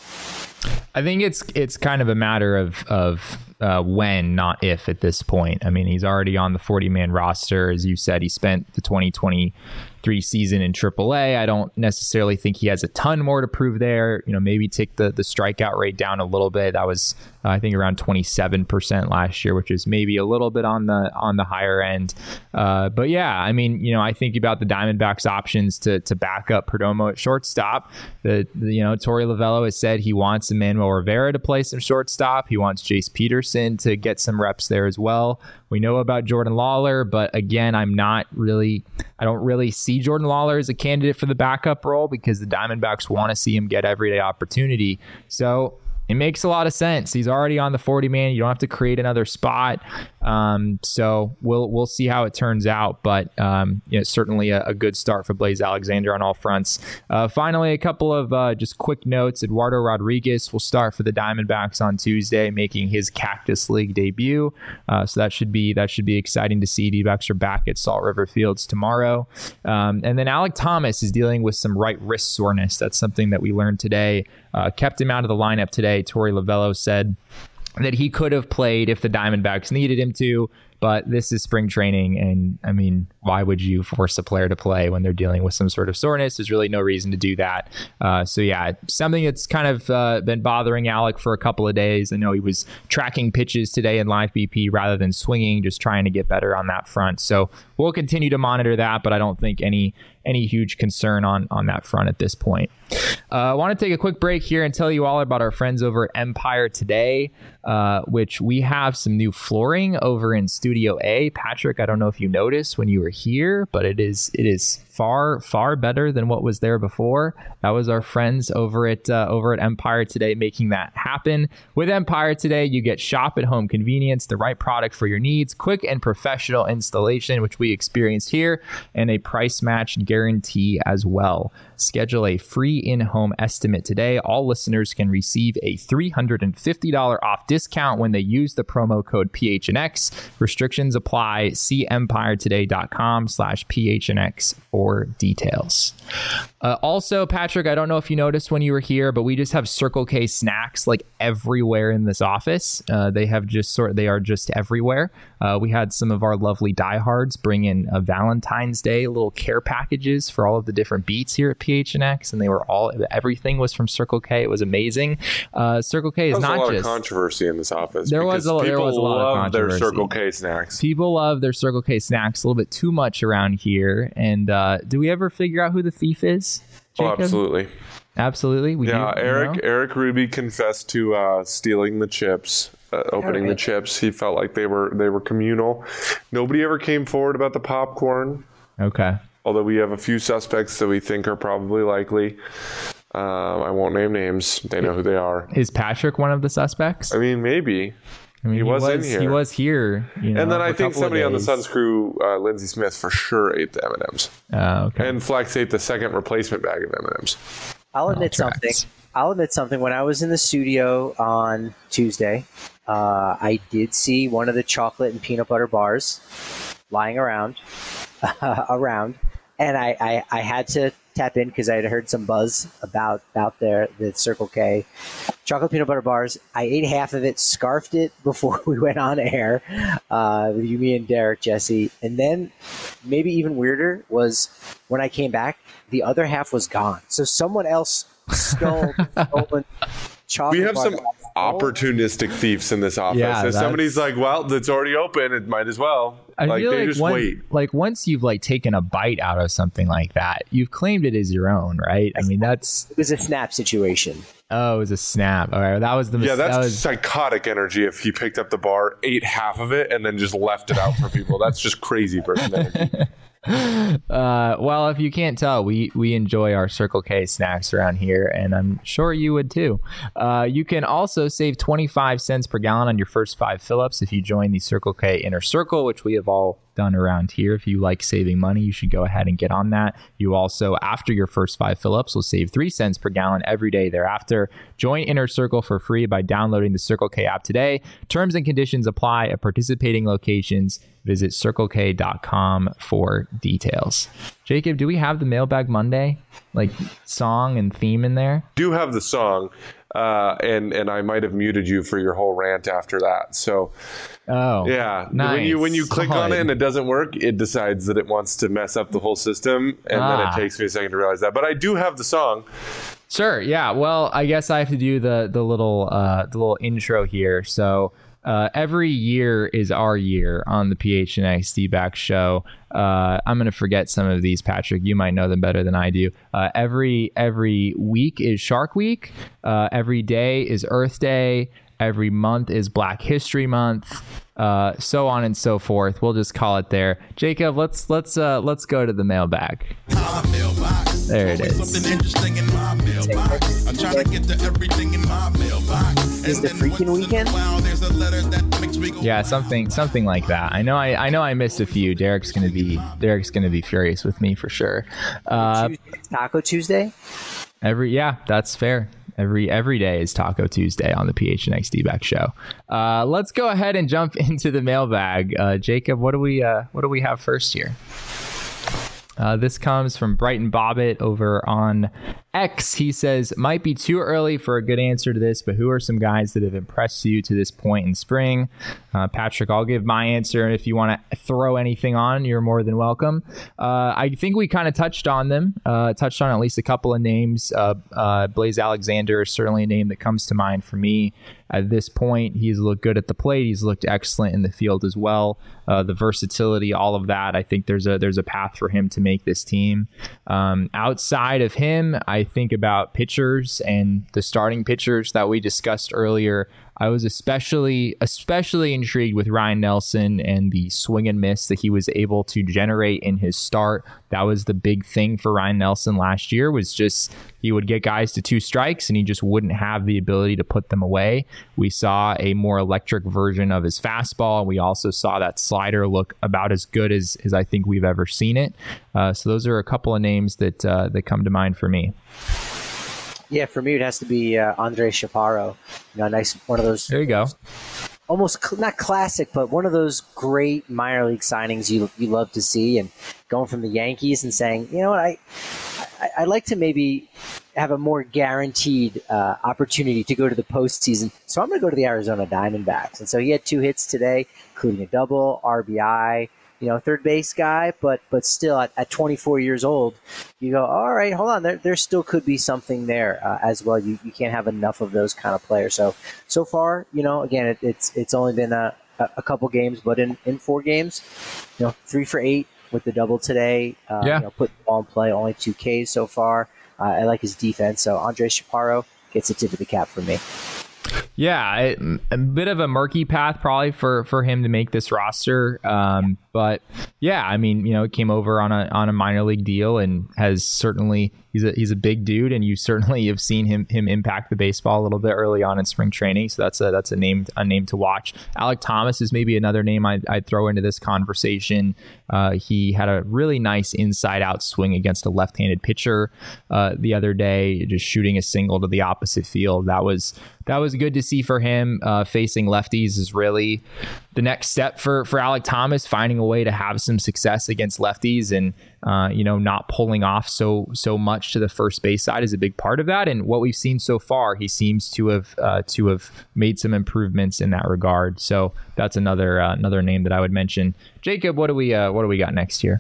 [SPEAKER 1] I think it's it's kind of a matter of of uh, when, not if, at this point. I mean, he's already on the forty-man roster. As you said, he spent the twenty twenty-three season in triple A. I don't necessarily think he has a ton more to prove there. You know, maybe take the, the strikeout rate down a little bit. That was, uh, I think, around twenty-seven percent last year, which is maybe a little bit on the on the higher end. Uh, but yeah, I mean, you know, I think about the Diamondbacks' options to to back up Perdomo at shortstop. The, the you know, Torey Lovullo has said he wants Emmanuel Rivera to play some shortstop. He wants Jace Peterson to get some reps there as well. We know about Jordan Lawler, but again, I'm not really, I don't really see Jordan Lawler as a candidate for the backup role because the Diamondbacks want to see him get everyday opportunity. So it makes a lot of sense. He's already on the forty man. You don't have to create another spot. Um, so we'll we'll see how it turns out. But um, you know, certainly a, a good start for Blaze Alexander on all fronts. Uh, finally, a couple of uh, just quick notes. Eduardo Rodriguez will start for the Diamondbacks on Tuesday, making his Cactus League debut. Uh, so that should be that should be exciting to see. D-backs are back at Salt River Fields tomorrow. Um, and then Alec Thomas is dealing with some right wrist soreness. That's something that we learned today. Uh, kept him out of the lineup today. Torey Lovullo said that he could have played if the Diamondbacks needed him to, but this is spring training, and I mean, why would you force a player to play when they're dealing with some sort of soreness? There's really no reason to do that. Uh, so yeah, something that's kind of uh, been bothering Alec for a couple of days. I know he was tracking pitches today in live B P rather than swinging, just trying to get better on that front. So we'll continue to monitor that, but I don't think any any huge concern on on that front at this point. Uh, I want to take a quick break here and tell you all about our friends over at Empire Today, uh, which we have some new flooring over in Studio A. Patrick, I don't know if you noticed when you were here, but it is it is far far better than what was there before. That was our friends over at uh, over at Empire Today making that happen. With Empire Today, you get shop at home convenience, the right product for your needs, quick and professional installation, which we experienced here, and a price match guarantee as well. Schedule a free in-home estimate today. All listeners can receive a three hundred fifty dollars off discount when they use the promo code P H N X. Restrictions apply. See empiretoday.com slash PHNX for details. Uh, also, Patrick, I don't know if you noticed when you were here, but we just have Circle K snacks like everywhere in this office. Uh, they have just sort they are just everywhere. Uh, we had some of our lovely diehards bring in a Valentine's Day little care packages for all of the different beats here at P H N X, and they were all everything was from Circle K. It was amazing. Uh, Circle K is
[SPEAKER 5] not
[SPEAKER 1] not
[SPEAKER 5] a lot
[SPEAKER 1] just
[SPEAKER 5] of controversy in this office.
[SPEAKER 1] There was a, there was a lot of controversy.
[SPEAKER 5] Their Circle K snacks.
[SPEAKER 1] People love their Circle K snacks a little bit too much around here. And uh, do we ever figure out who the thief is, Jacob?
[SPEAKER 5] Oh, absolutely.
[SPEAKER 1] Absolutely. We
[SPEAKER 5] yeah,
[SPEAKER 1] do,
[SPEAKER 5] Eric
[SPEAKER 1] you know?
[SPEAKER 5] Eric Ruby confessed to uh, stealing the chips, uh, opening
[SPEAKER 2] right.
[SPEAKER 5] the chips. He felt like they were they were communal. Nobody ever came forward about the popcorn.
[SPEAKER 1] Okay.
[SPEAKER 5] Although we have a few suspects that we think are probably likely. Uh, I won't name names. They know who they are.
[SPEAKER 1] Is Patrick one of the suspects?
[SPEAKER 5] I mean, maybe.
[SPEAKER 1] I mean,
[SPEAKER 5] he,
[SPEAKER 1] he
[SPEAKER 5] was,
[SPEAKER 1] was
[SPEAKER 5] in here.
[SPEAKER 1] He was here. You know,
[SPEAKER 5] and then
[SPEAKER 1] for
[SPEAKER 5] I
[SPEAKER 1] a
[SPEAKER 5] think
[SPEAKER 1] couple of
[SPEAKER 5] somebody on the
[SPEAKER 1] days.
[SPEAKER 5] Suns crew, uh, Lindsey Smith, for sure ate the M and M's.
[SPEAKER 1] Oh, okay.
[SPEAKER 5] And Flex ate the second replacement bag of M and M's.
[SPEAKER 2] I'll admit
[SPEAKER 1] All
[SPEAKER 2] something.
[SPEAKER 1] tracks.
[SPEAKER 2] I'll admit something. When I was in the studio on Tuesday, uh, I did see one of the chocolate and peanut butter bars lying around. around. and I, I, I had to tap in because I had heard some buzz about about their the Circle K chocolate peanut butter bars. I ate half of it, scarfed it before we went on air uh, with you, me, and Derek, Jesse, and then maybe even weirder was when I came back, the other half was gone. So someone else stole stolen chocolate.
[SPEAKER 5] We have
[SPEAKER 2] bar
[SPEAKER 5] some opportunistic thieves in this office.
[SPEAKER 1] Yeah,
[SPEAKER 5] if somebody's like, well, it's already open, it might as well.
[SPEAKER 1] I
[SPEAKER 5] like
[SPEAKER 1] feel
[SPEAKER 5] they
[SPEAKER 1] like
[SPEAKER 5] just
[SPEAKER 1] one-
[SPEAKER 5] wait.
[SPEAKER 1] Like once you've like taken a bite out of something like that, you've claimed it as your own, right? I mean, that's
[SPEAKER 2] It was a snap situation.
[SPEAKER 1] oh, it was a snap. All right, well, that was the
[SPEAKER 5] Yeah,
[SPEAKER 1] mis-
[SPEAKER 5] that's
[SPEAKER 1] that was,
[SPEAKER 5] psychotic energy if he picked up the bar, ate half of it, and then just left it out for people. That's just crazy person energy.
[SPEAKER 1] Uh, well, if you can't tell, we we enjoy our Circle K snacks around here, and I'm sure you would too. Uh, you can also save twenty-five cents per gallon on your first five fill-ups if you join the Circle K Inner Circle, which we have all done around here. If you like saving money, you should go ahead and get on that. You also, after your first five fill-ups, will save three cents per gallon every day thereafter. Join Inner Circle for free by downloading the Circle K app today. Terms and conditions apply at participating locations. Visit circle k dot com for details. Jacob, do we have the Mailbag Monday like song and theme in there?
[SPEAKER 5] Do have the song, uh, and and I might have muted you for your whole rant after that. So
[SPEAKER 1] Oh,
[SPEAKER 5] yeah,
[SPEAKER 1] nice.
[SPEAKER 5] when you when you click on it
[SPEAKER 1] Solid.
[SPEAKER 5] and it doesn't work, it decides that it wants to mess up the whole system, and then
[SPEAKER 1] Ah.
[SPEAKER 5] it takes me a second to realize that. But I do have the song.
[SPEAKER 1] Sure. Yeah. Well, I guess I have to do the the little uh, the little intro here. So uh, every year is our year on the P H N X D-Back show. Uh, I'm gonna forget some of these, Patrick. You might know them better than I do. Uh, every every week is Shark Week. Uh, every day is Earth Day. Every month is Black History Month. Uh, so on and so forth. We'll just call it there. Jacob, let's let's uh, let's go to the mailbag. There it is.
[SPEAKER 2] Is the freaking weekend?
[SPEAKER 1] Yeah, something something like that. I know I, I know I missed a few. Derek's gonna be Derek's gonna be furious with me for sure. Uh,
[SPEAKER 2] Tuesday, Taco Tuesday?
[SPEAKER 1] every yeah, that's fair. Every every day is Taco Tuesday on the P H N X D-Back show. Uh, let's go ahead and jump into the mailbag. Uh, Jacob, what do we uh, what do we have first here? Uh, this comes from Brighton Bobbitt over on X. He says, might be too early for a good answer to this, but who are some guys that have impressed you to this point in spring? Uh, Patrick, I'll give my answer. If you want to throw anything on, you're more than welcome. Uh, I think we kind of touched on them, uh, touched on at least a couple of names. Uh, uh, Blaze Alexander is certainly a name that comes to mind for me. At this point, he's looked good at the plate. He's looked excellent in the field as well. Uh, the versatility, all of that. I think there's a there's a path for him to make this team. Um, outside of him, I think about pitchers and the starting pitchers that we discussed earlier. I was especially especially intrigued with Ryan Nelson and the swing and miss that he was able to generate in his start. That was the big thing for Ryan Nelson last year, was just he would get guys to two strikes and he just wouldn't have the ability to put them away. We saw a more electric version of his fastball. We also saw that slider look about as good as, as I think we've ever seen it. Uh, so those are a couple of names that uh, that come to mind for me.
[SPEAKER 2] Yeah, for me it has to be uh, Andre Chaparro. You know, a nice one of those.
[SPEAKER 1] There you go.
[SPEAKER 2] Almost cl- not classic, but one of those great minor league signings you you love to see, and going from the Yankees and saying, you know what, I I, I like to maybe have a more guaranteed uh, opportunity to go to the postseason. So I'm going to go to the Arizona Diamondbacks. And so he had two hits today, including a double, R B I. You know, third base guy, but but still at, at twenty-four years old, you go, all right, hold on, there there still could be something there uh, as well. You you can't have enough of those kind of players. So so far, you know, again, it, it's it's only been a, a couple games, but in, in four games, you know, three for eight with the double today. Uh,
[SPEAKER 1] Yeah.
[SPEAKER 2] You know, put the ball in play, only two Ks so far. Uh, I like his defense. So Andre Chaparro gets a tip of the cap for me.
[SPEAKER 1] Yeah, it, a bit of a murky path probably for, for him to make this roster. Um, but yeah, I mean, you know, it came over on a on a minor league deal and has certainly he's a he's a big dude, and you certainly have seen him him impact the baseball a little bit early on in spring training. So that's a that's a name a name to watch. Alec Thomas is maybe another name I'd, I'd throw into this conversation. Uh, he had a really nice inside out swing against a left-handed pitcher uh, the other day, just shooting a single to the opposite field. That was that was good to see for him. Uh, facing lefties is really the next step for for Alec Thomas, finding a way to have some success against lefties, and uh, you know, not pulling off so so much to the first base side is a big part of that. And what we've seen so far, he seems to have uh, to have made some improvements in that regard. So that's another uh, another name that I would mention. Jacob, what do we uh, what do we got next here?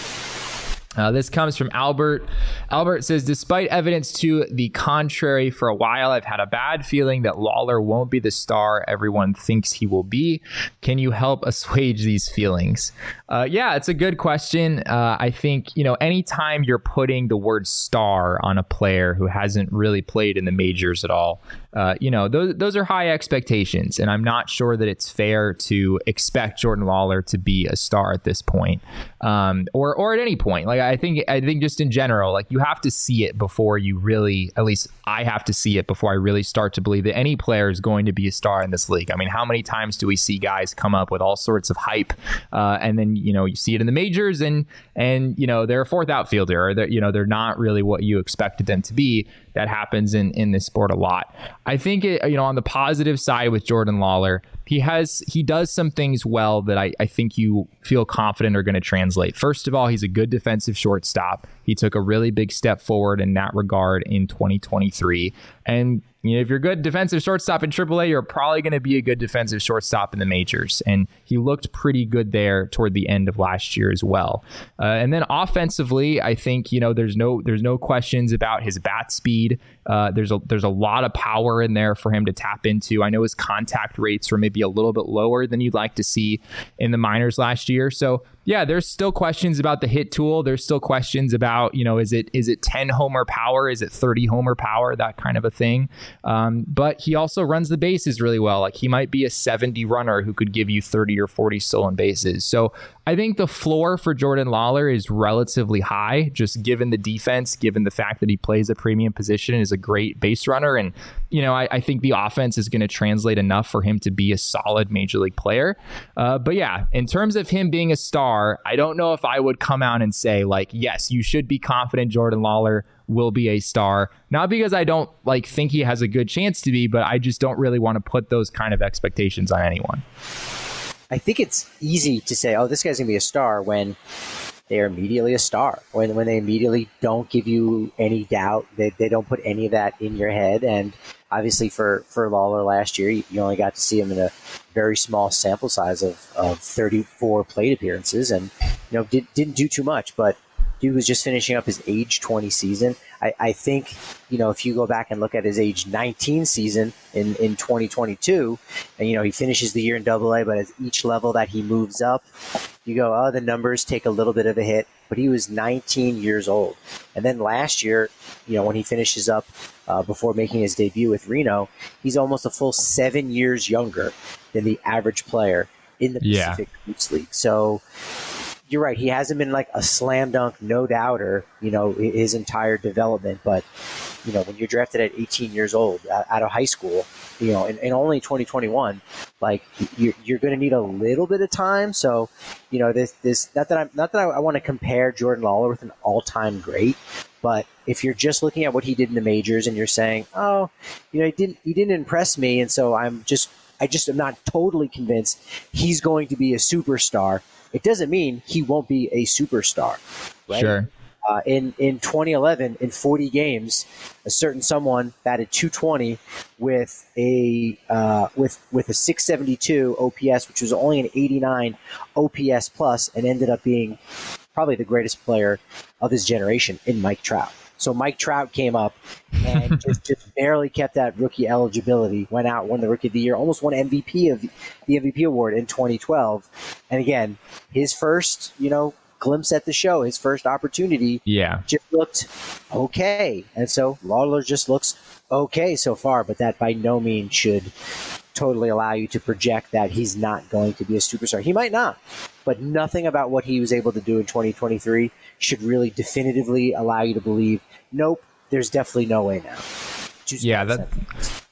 [SPEAKER 1] Uh, this comes from Albert. Albert says, despite evidence to the contrary for a while, I've had a bad feeling that Lawlar won't be the star everyone thinks he will be. Can you help assuage these feelings? Uh, yeah, it's a good question. Uh, I think, you know, anytime you're putting the word star on a player who hasn't really played in the majors at all, uh, you know, those, those are high expectations. And I'm not sure that it's fair to expect Jordan Lawlar to be a star at this point, um, or, or at any point. Like, I think I think just in general, like, you have to see it before you really, at least I have to see it before I really start to believe that any player is going to be a star in this league. I mean, how many times do we see guys come up with all sorts of hype, uh, and then, you know, you see it in the majors, and and you know, they're a fourth outfielder, or they're, you know, they're not really what you expected them to be. That happens in in this sport a lot. I think it, you know, on the positive side with Jordan Lawlar, he has he does some things well that I, I think you feel confident are going to translate. First of all, he's a good defensive shortstop. He took a really big step forward in that regard in twenty twenty-three. And you know, if you're a good defensive shortstop in triple A, you're probably going to be a good defensive shortstop in the majors. And he looked pretty good there toward the end of last year as well. Uh, and then offensively, I think, you know, there's no there's no questions about his bat speed. Uh, there's a there's a lot of power in there for him to tap into. I know his contact rates were maybe a little bit lower than you'd like to see in the minors last year. So yeah, there's still questions about the hit tool. There's still questions about, you know, is it is it ten homer power? Is it thirty homer power? That kind of a thing. Um, but he also runs the bases really well. Like, he might be a seventy runner who could give you thirty or forty stolen bases. So I think the floor for Jordan Lawlar is relatively high, just given the defense, given the fact that he plays a premium position and is a great base runner. And, you know, I, I think the offense is going to translate enough for him to be a solid major league player. Uh, but yeah, in terms of him being a star, I don't know if I would come out and say, like, yes, you should be confident Jordan Lawlar will be a star. Not because I don't like think he has a good chance to be, but I just don't really want to put those kind of expectations on anyone.
[SPEAKER 2] I think it's easy to say, oh, this guy's going to be a star when they are immediately a star, when when they immediately don't give you any doubt, they, they don't put any of that in your head. And obviously for, for Lawlar last year, you, you only got to see him in a very small sample size of, of thirty-four plate appearances, and, you know, did, didn't do too much, but dude was just finishing up his age twenty season. I, I think, you know, if you go back and look at his age nineteen season in, in twenty twenty-two, and, you know, he finishes the year in double A, but at each level that he moves up, you go, oh, the numbers take a little bit of a hit, but he was nineteen years old. And then last year, you know, when he finishes up uh, before making his debut with Reno, he's almost a full seven years younger than the average player in the
[SPEAKER 1] yeah.
[SPEAKER 2] Pacific Roots League. So you're right. He hasn't been like a slam dunk, no doubter, you know, his entire development. But, you know, when you're drafted at eighteen years old out of high school, you know, and, and only twenty twenty-one, like, you're, you're going to need a little bit of time. So, you know, this, this, not that I'm, not that I, I want to compare Jordan Lawlar with an all time great, but if you're just looking at what he did in the majors and you're saying, oh, you know, he didn't, he didn't impress me. And so I'm just, I just am not totally convinced he's going to be a superstar. It doesn't mean he won't be a superstar, right?
[SPEAKER 1] Sure.
[SPEAKER 2] Uh, in, in twenty eleven, in forty games, a certain someone batted two twenty with a uh, with with a six seventy-two O P S, which was only an eighty-nine O P S plus, and ended up being probably the greatest player of his generation in Mike Trout. So Mike Trout came up and just, just barely kept that rookie eligibility, went out, won the Rookie of the Year, almost won M V P of the M V P award in twenty twelve. And again, his first, you know, glimpse at the show, his first opportunity,
[SPEAKER 1] yeah,
[SPEAKER 2] just looked okay. And so Lawlar just looks okay so far, but that by no means should totally allow you to project that he's not going to be a superstar. He might not, but nothing about what he was able to do in twenty twenty-three should really definitively allow you to believe, nope, there's definitely no way now. Just
[SPEAKER 1] yeah, that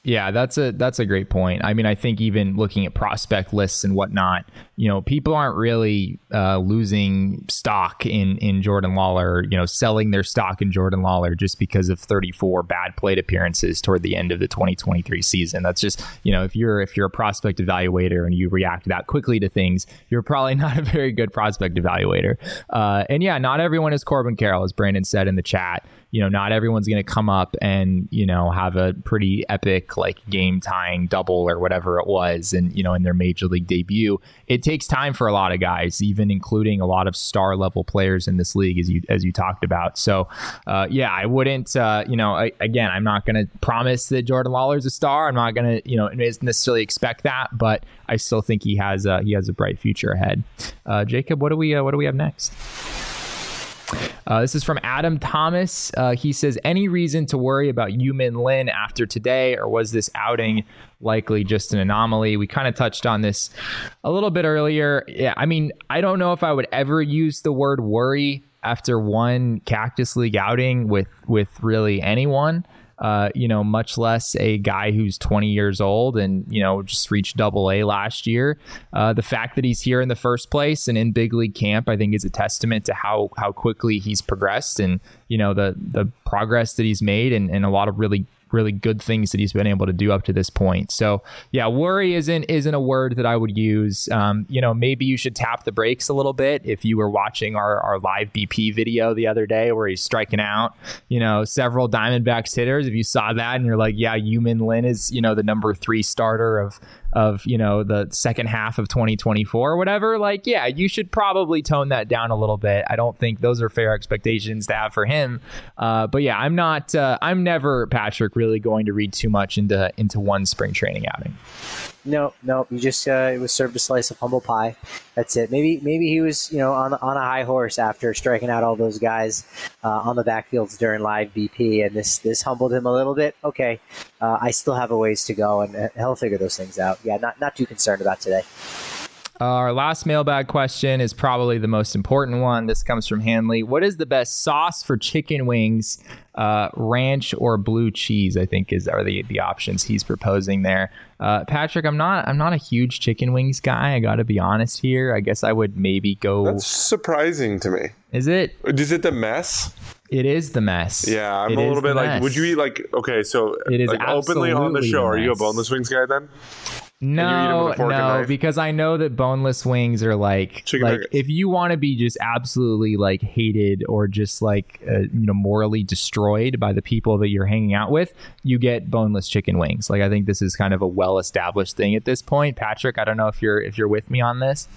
[SPEAKER 1] Yeah, that's a that's a great point. I mean, I think even looking at prospect lists and whatnot, you know, people aren't really uh, losing stock in in Jordan Lawler, you know, selling their stock in Jordan Lawler just because of thirty-four bad plate appearances toward the end of the twenty twenty-three season. That's just, you know, if you're if you're a prospect evaluator and you react that quickly to things, you're probably not a very good prospect evaluator. Uh, and yeah, not everyone is Corbin Carroll, as Brandon said in the chat. You know, not everyone's going to come up and, you know, have a pretty epic like game tying double or whatever it was. And, you know, in their major league debut, it takes time for a lot of guys, even including a lot of star level players in this league, as you as you talked about. So, uh, yeah, I wouldn't, uh, you know, I, again, I'm not going to promise that Jordan Lawler's a star. I'm not going to, you know, necessarily expect that, but I still think he has a, he has a bright future ahead. Uh, Jacob, what do we uh, what do we have next? Uh, this is from Adam Thomas. Uh, he says, any reason to worry about Yu-Min Lin after today, or was this outing likely just an anomaly? We kind of touched on this a little bit earlier. Yeah, I mean, I don't know if I would ever use the word worry after one Cactus League outing with, with really anyone. Uh, you know, much less a guy who's twenty years old and, you know, just reached double A last year. Uh, the fact that he's here in the first place and in big league camp, I think is a testament to how how quickly he's progressed and, you know, the the progress that he's made and, and a lot of really really good things that he's been able to do up to this point. So yeah, worry isn't isn't a word that I would use. Um, you know, maybe you should tap the brakes a little bit. If you were watching our, our live B P video the other day where he's striking out, you know, several Diamondbacks hitters, if you saw that and you're like, yeah, Yu-Min Lin is, you know, the number three starter of of, you know, the second half of twenty twenty-four or whatever, like, yeah, you should probably tone that down a little bit. I don't think those are fair expectations to have for him. Uh, but yeah, I'm not, uh, I'm never, Patrick, really going to read too much into, into one spring training outing.
[SPEAKER 2] No, no, you just uh, it was served a slice of humble pie. That's it. Maybe, maybe he was, you know, on on a high horse after striking out all those guys uh, on the backfields during live B P, and this this humbled him a little bit. Okay, uh, I still have a ways to go, and he'll figure those things out. Yeah, not not too concerned about today.
[SPEAKER 1] Uh, our last mailbag question is probably the most important one. This comes from Hanley. What is the best sauce for chicken wings? Uh, ranch or blue cheese, I think, is are the the options he's proposing there. Uh, Patrick, I'm not I'm not a huge chicken wings guy. I got to be honest here. I guess I would maybe go.
[SPEAKER 5] That's surprising to me.
[SPEAKER 1] Is it?
[SPEAKER 5] Is it the mess?
[SPEAKER 1] It is the mess.
[SPEAKER 5] Yeah, I'm
[SPEAKER 1] it
[SPEAKER 5] a little bit like.
[SPEAKER 1] mess.
[SPEAKER 5] Would you eat like? Okay, so
[SPEAKER 1] it is
[SPEAKER 5] like openly on the show.
[SPEAKER 1] The
[SPEAKER 5] are you a boneless wings guy then?
[SPEAKER 1] No, no, because I know that boneless wings are like,
[SPEAKER 5] Chicken
[SPEAKER 1] like
[SPEAKER 5] nuggets.
[SPEAKER 1] If you want to be just absolutely like hated or just like, uh, you know, morally destroyed by the people that you're hanging out with, you get boneless chicken wings. Like, I think this is kind of a well-established thing at this point. Patrick, I don't know if you're, if you're with me on this.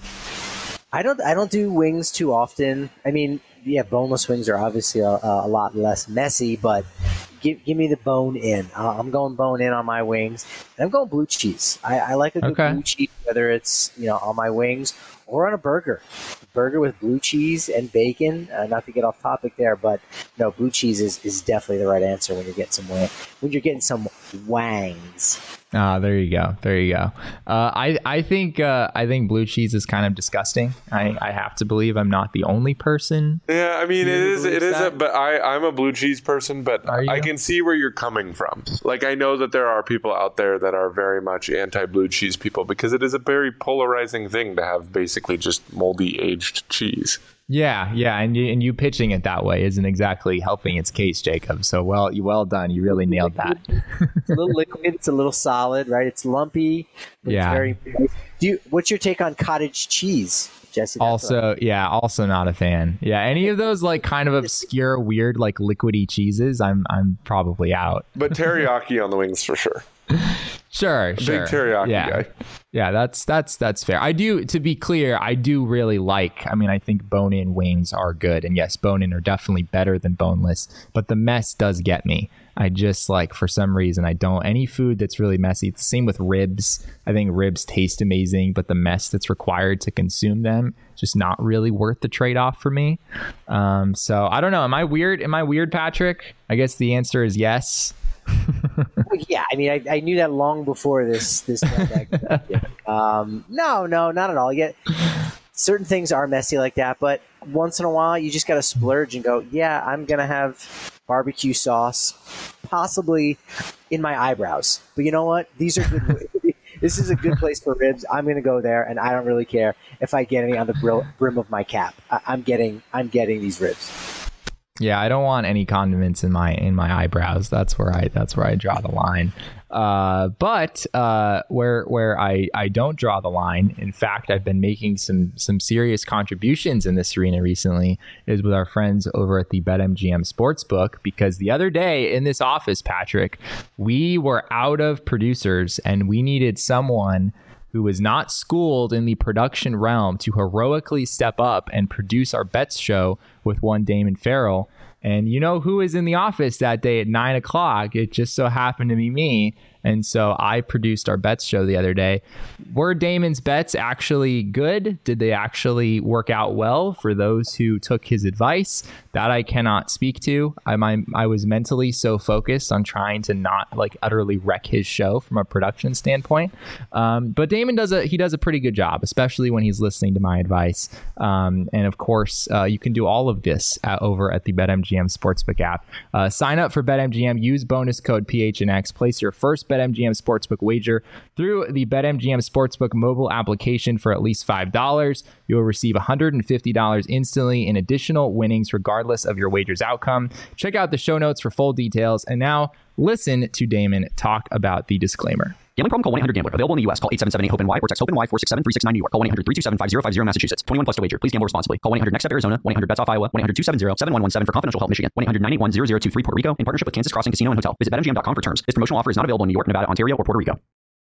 [SPEAKER 2] I don't, I don't do wings too often. I mean, yeah, boneless wings are obviously a, a lot less messy, but give give me the bone in. Uh, I'm going bone in on my wings, and I'm going blue cheese. I, I like a good
[SPEAKER 1] Okay.
[SPEAKER 2] blue cheese, whether it's, you know, on my wings or on a burger. Burger with blue cheese and bacon. Uh, not to get off topic there, but no, blue cheese is, is definitely the right answer when you're getting some wang, when you're getting some wangs.
[SPEAKER 1] Ah, there you go. There you go. Uh, I I think uh, I think blue cheese is kind of disgusting. I, I have to believe I'm not the only person.
[SPEAKER 5] Yeah, I mean, it
[SPEAKER 1] You
[SPEAKER 5] is. It
[SPEAKER 1] believe
[SPEAKER 5] is. A,
[SPEAKER 1] that?
[SPEAKER 5] but I, I'm a blue cheese person. But
[SPEAKER 1] Are you?
[SPEAKER 5] I can see where you're coming from. Like, I know that there are people out there that are very much anti-blue cheese people because it is a very polarizing thing to have basically just moldy aged cheese.
[SPEAKER 1] Yeah, yeah, and you, and you pitching it that way isn't exactly helping its case, Jacob. So well, you well done. You really nailed that.
[SPEAKER 2] It's a little liquid. It's a little solid, right? It's lumpy. But
[SPEAKER 1] Yeah.
[SPEAKER 2] It's very. Do you? What's your take on cottage cheese, Jesse? That's what
[SPEAKER 1] Also, yeah, also not a fan. Yeah, any of those like kind of obscure, weird, like liquidy cheeses, I'm I'm probably out.
[SPEAKER 5] But teriyaki on the wings for sure.
[SPEAKER 1] Sure,
[SPEAKER 5] Big
[SPEAKER 1] sure.
[SPEAKER 5] teriyaki
[SPEAKER 1] yeah.
[SPEAKER 5] guy.
[SPEAKER 1] Yeah, that's that's that's fair. I do, to be clear, I do really like, I mean, I think bone-in wings are good. And yes, bone-in are definitely better than boneless, but the mess does get me. I just like, for some reason, I don't, any food that's really messy. It's the same with ribs. I think ribs taste amazing, but the mess that's required to consume them, just not really worth the trade-off for me. Um, so I don't know. Am I weird? Am I weird, Patrick? I guess the answer is yes.
[SPEAKER 2] Well, yeah, I mean, I, I knew that long before this this. um, no, no, not at all. Yet, certain things are messy like that, but once in a while, you just got to splurge and go. Yeah, I'm gonna have barbecue sauce, possibly in my eyebrows. But you know what? These are good. This is a good place for ribs. I'm going to go there, and I don't really care if I get any on the brill, brim of my cap. I, I'm getting, I'm getting these ribs.
[SPEAKER 1] Yeah, I don't want any condiments in my in my eyebrows. That's where I that's where I draw the line. Uh, but uh, where where I, I don't draw the line, in fact, I've been making some some serious contributions in this arena recently, is with our friends over at the BetMGM Sportsbook. Because the other day in this office, Patrick, we were out of producers and we needed someone who was not schooled in the production realm to heroically step up and produce our bets show with one Damon Farrell. And you know who was in the office that day at nine o'clock? It just so happened to be me. And so I produced our bets show the other day. Were Damon's bets actually good? Did they actually work out well for those who took his advice? That I cannot speak to. I my, I was mentally so focused on trying to not like utterly wreck his show from a production standpoint. Um, but Damon does a he does a pretty good job, especially when he's listening to my advice. Um, and of course, uh, you can do all of this at, over at the BetMGM Sportsbook app. Uh, sign up for BetMGM. Use bonus code P H N X. Place your first BetMGM Sportsbook wager through the BetMGM Sportsbook mobile application for at least five dollars. You will receive one hundred fifty dollars instantly in additional winnings regardless of your wager's outcome. Check out the show notes for full details. And now listen to Damon talk about the disclaimer.
[SPEAKER 8] Gambling problem? Call one eight hundred gambler. Available in the U S. Call eight seven seven eight hope N Y or text HOPE-NY four six seven three six nine New York. Call one eight hundred three two seven five zero five zero Massachusetts. twenty-one plus to wager. Please gamble responsibly. Call one eight hundred next step Arizona. one eight hundred bets off Iowa. one eight hundred two seven zero seven one one seven for confidential help Michigan. one eight hundred nine eight one zero zero two three Puerto Rico in partnership with Kansas Crossing Casino and Hotel. Visit bet M G M dot com for terms. This promotional offer is not available in New York, Nevada, Ontario, or Puerto Rico.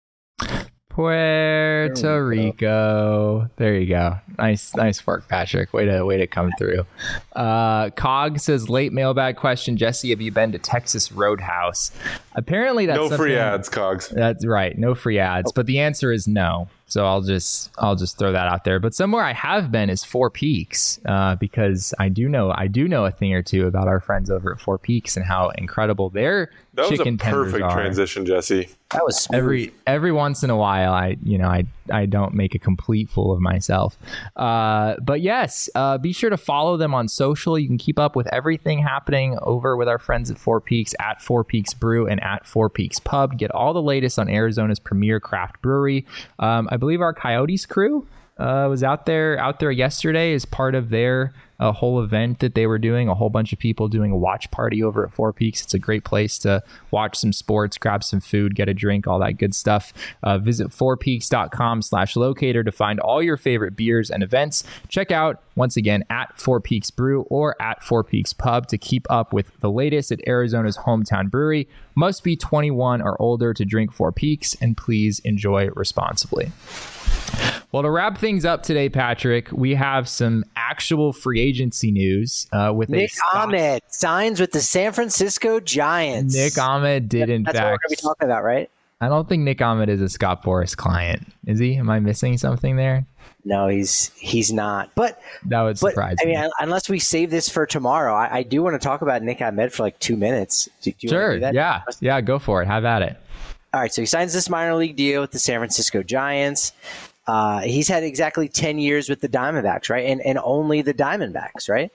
[SPEAKER 1] Puerto Rico. There you go. Nice, nice work, Patrick. Way to way to come through. Uh, Cog says, late mailbag question. Jesse, have you been to Texas Roadhouse? Apparently, that's
[SPEAKER 5] no free
[SPEAKER 1] something-
[SPEAKER 5] ads, Cogs.
[SPEAKER 1] That's right. No free ads. But the answer is no. So I'll just I'll just throw that out there. But somewhere I have been is Four Peaks, uh, because I do know I do know a thing or two about our friends over at Four Peaks and how incredible their
[SPEAKER 5] That was
[SPEAKER 1] chicken
[SPEAKER 5] a
[SPEAKER 1] tenders
[SPEAKER 5] perfect
[SPEAKER 1] are.
[SPEAKER 5] transition, Jesse.
[SPEAKER 2] That was smooth.
[SPEAKER 1] Every every once in a while, I you know I I don't make a complete fool of myself. Uh, but yes, uh, be sure to follow them on social. You can keep up with everything happening over with our friends at Four Peaks, at Four Peaks Brew and at Four Peaks Pub. Get all the latest on Arizona's premier craft brewery. Um, I believe our Coyotes crew uh, was out there out there yesterday as part of their a whole event that they were doing, a whole bunch of people doing a watch party over at Four Peaks. It's a great place to watch some sports, grab some food, get a drink, all that good stuff. Uh, visit fourpeaks.com slash locator to find all your favorite beers and events. Check out, once again, at Four Peaks Brew or at Four Peaks Pub to keep up with the latest at Arizona's hometown brewery. Must be twenty-one or older to drink Four Peaks, and please enjoy responsibly. Well, to wrap things up today, Patrick, we have some actual free agency news uh, with
[SPEAKER 2] Nick
[SPEAKER 1] a
[SPEAKER 2] Ahmed signs with the San Francisco Giants.
[SPEAKER 1] Nick Ahmed did, in
[SPEAKER 2] That's
[SPEAKER 1] fact.
[SPEAKER 2] what we're going to be talking about, right?
[SPEAKER 1] I don't think Nick Ahmed is a Scott Boras client. Is he? Am I missing something there?
[SPEAKER 2] No, he's he's not. But
[SPEAKER 1] that would
[SPEAKER 2] but,
[SPEAKER 1] surprise
[SPEAKER 2] I
[SPEAKER 1] me.
[SPEAKER 2] mean, unless we save this for tomorrow, I, I do want to talk about Nick Ahmed for like two minutes. Do, do you
[SPEAKER 1] sure.
[SPEAKER 2] want to do that?
[SPEAKER 1] Yeah. Yeah. Go for it. Have at it.
[SPEAKER 2] All right. So he signs this minor league deal with the San Francisco Giants. Uh, he's had exactly ten years with the Diamondbacks, right? And and only the Diamondbacks, right?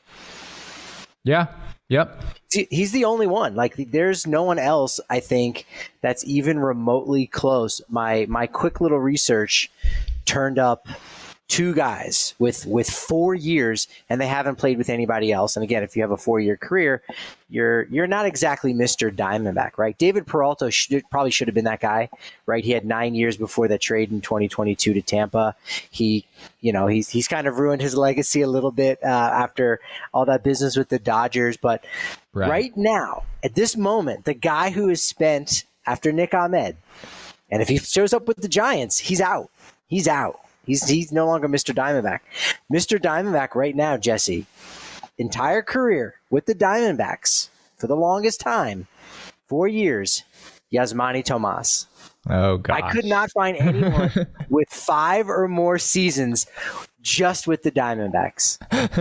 [SPEAKER 1] Yeah. Yep.
[SPEAKER 2] He's the only one. Like, there's no one else, I think, that's even remotely close. My my quick little research turned up two guys with with four years, and they haven't played with anybody else. And again, if you have a four-year career, you're you're not exactly Mister Diamondback, right? David Peralta should, probably should have been that guy, right? He had nine years before that trade in twenty twenty-two to Tampa. He, you know, he's he's kind of ruined his legacy a little bit uh, after all that business with the Dodgers. But right. right now, at this moment, the guy who has spent after Nick Ahmed, and if he shows up with the Giants, he's out. He's out. He's he's no longer Mister Diamondback. Mister Diamondback right now, Jesse, entire career with the Diamondbacks for the longest time, four years, Yasmani Tomas.
[SPEAKER 1] Oh, gosh.
[SPEAKER 2] I could not find anyone with five or more seasons just with the Diamondbacks.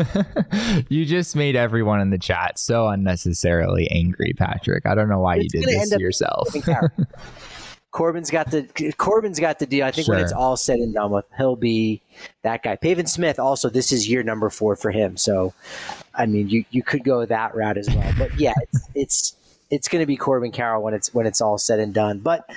[SPEAKER 1] You just made everyone in the chat so unnecessarily angry, Patrick. I don't know why
[SPEAKER 2] it's
[SPEAKER 1] you did this to yourself.
[SPEAKER 2] Corbin's got the Corbin's got the deal. I think
[SPEAKER 1] Sure.
[SPEAKER 2] when it's all said and done with, he'll be that guy. Pavin Smith also, this is year number four for him. So, I mean, you, you could go that route as well. But yeah, it's it's it's going to be Corbin Carroll when it's when it's all said and done. But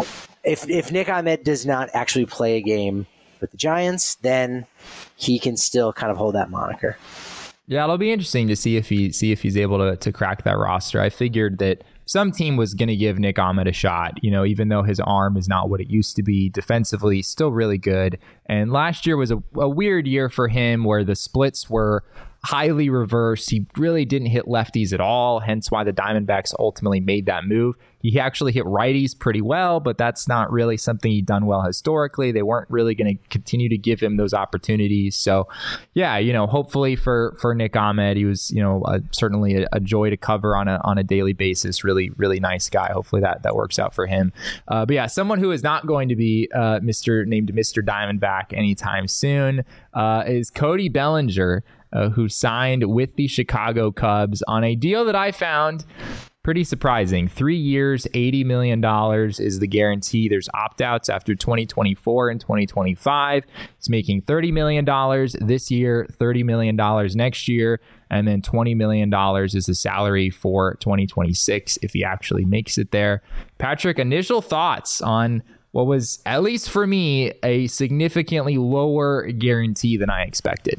[SPEAKER 2] if if Nick Ahmed does not actually play a game with the Giants, then he can still kind of hold that moniker.
[SPEAKER 1] Yeah, it'll be interesting to see if he see if he's able to to crack that roster. I figured that some team was going to give Nick Ahmed a shot, you know, even though his arm is not what it used to be. Defensively, still really good. And last year was a, a weird year for him where the splits were highly reversed. He really didn't hit lefties at all, hence why the Diamondbacks ultimately made that move. He actually hit righties pretty well, but that's not really something he'd done well historically. They weren't really going to continue to give him those opportunities. So, yeah, you know, hopefully for for Nick Ahmed, he was, you know, uh, certainly a, a joy to cover on a on a daily basis. Really, really nice guy. Hopefully that that works out for him. Uh, but yeah, someone who is not going to be uh, Mister named Mister Diamondback anytime soon uh, is Cody Bellinger, uh, who signed with the Chicago Cubs on a deal that I found pretty surprising. Three years, eighty million dollars is the guarantee. There's opt-outs after twenty twenty-four and twenty twenty-five. He's making thirty million dollars this year, thirty million dollars next year, and then twenty million dollars is the salary for twenty twenty-six if he actually makes it there. Patrick, initial thoughts on what was, at least for me, a significantly lower guarantee than I expected?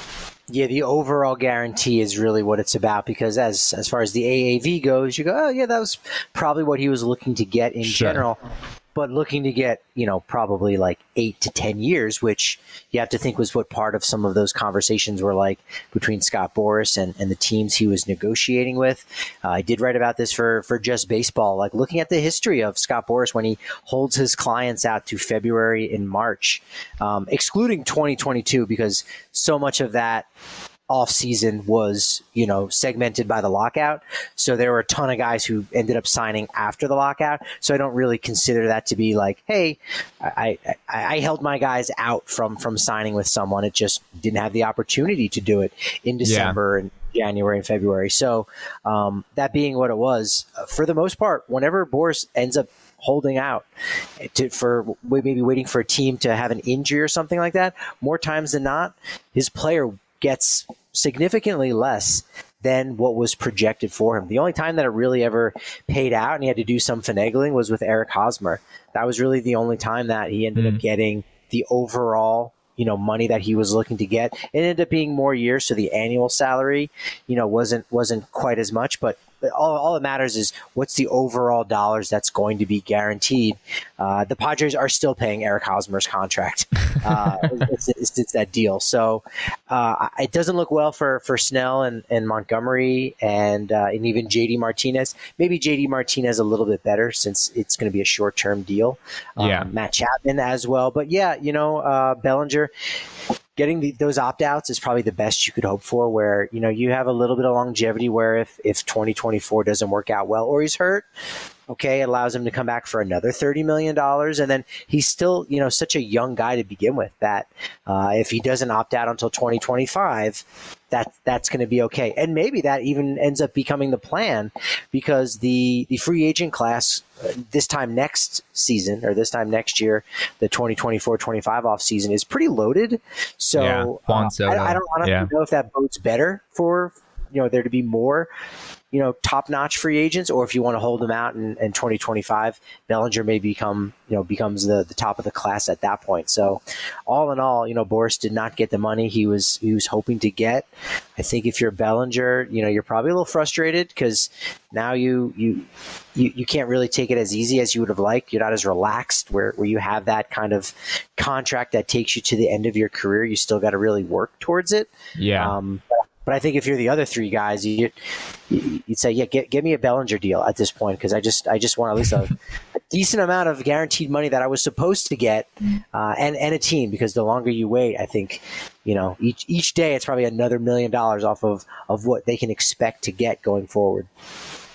[SPEAKER 2] Yeah, the overall guarantee is really what it's about, because as as far as the A A V goes, you go, oh, yeah, that was probably what he was looking to get in
[SPEAKER 1] Sure.
[SPEAKER 2] general. But looking to get, you know, probably like eight to ten years, which you have to think was what part of some of those conversations were like between Scott Boras and, and the teams he was negotiating with. Uh, I did write about this for, for Just Baseball, like looking at the history of Scott Boras when he holds his clients out to February and March, um, excluding twenty twenty-two, because so much of that off season was, you know, segmented by the lockout. So there were a ton of guys who ended up signing after the lockout. So I don't really consider that to be like, hey, I, I, I held my guys out from, from signing with someone. It just didn't have the opportunity to do it in December yeah. and January and February. So um, that being what it was, for the most part, whenever Boras ends up holding out to, for maybe waiting for a team to have an injury or something like that, more times than not, his player gets significantly less than what was projected for him. The only time that it really ever paid out and he had to do some finagling was with Eric Hosmer. That was really the only time that he ended mm. up getting the overall, you know, money that he was looking to get. It ended up being more years, so the annual salary, you know, wasn't wasn't quite as much, but all, all that matters is what's the overall dollars that's going to be guaranteed. Uh, the Padres are still paying Eric Hosmer's contract. Uh, it's, it's, it's that deal. So uh, it doesn't look well for, for Snell and, and Montgomery and, uh, and even J D Martinez. Maybe J D Martinez a little bit better since it's going to be a short-term deal. Um,
[SPEAKER 1] yeah.
[SPEAKER 2] Matt Chapman as well. But yeah, you know, uh, Bellinger, getting the, those opt-outs is probably the best you could hope for, where, you know, you have a little bit of longevity where if, if twenty twenty-four doesn't work out well or he's hurt, okay, it allows him to come back for another thirty million dollars. And then he's still, you know, such a young guy to begin with that uh, if he doesn't opt out until twenty twenty-five, that, that's going to be okay. And maybe that even ends up becoming the plan, because the, the free agent class uh, this time next season or this time next year, the twenty twenty-four twenty-five off season is pretty loaded. So
[SPEAKER 1] yeah, Juan
[SPEAKER 2] uh,
[SPEAKER 1] Soto.
[SPEAKER 2] I, I don't honestly
[SPEAKER 1] yeah.
[SPEAKER 2] know if that bodes better for, you know, there to be more, you know, top-notch free agents, or if you want to hold them out in, in twenty twenty-five, Bellinger may become, you know, becomes the, the top of the class at that point. So all in all, you know, Boras did not get the money he was he was hoping to get. I think if you're Bellinger, you know, you're probably a little frustrated because now you you you, you can't really take it as easy as you would have liked. You're not as relaxed where, where you have that kind of contract that takes you to the end of your career. You still got to really work towards it.
[SPEAKER 1] Yeah.
[SPEAKER 2] Um, But I think if you're the other three guys, you, you'd say, yeah, get, get me a Bellinger deal at this point, because I just I just want at least a, a decent amount of guaranteed money that I was supposed to get, uh, and and a team. Because the longer you wait, I think, you know, each each day it's probably another million dollars off of of what they can expect to get going forward.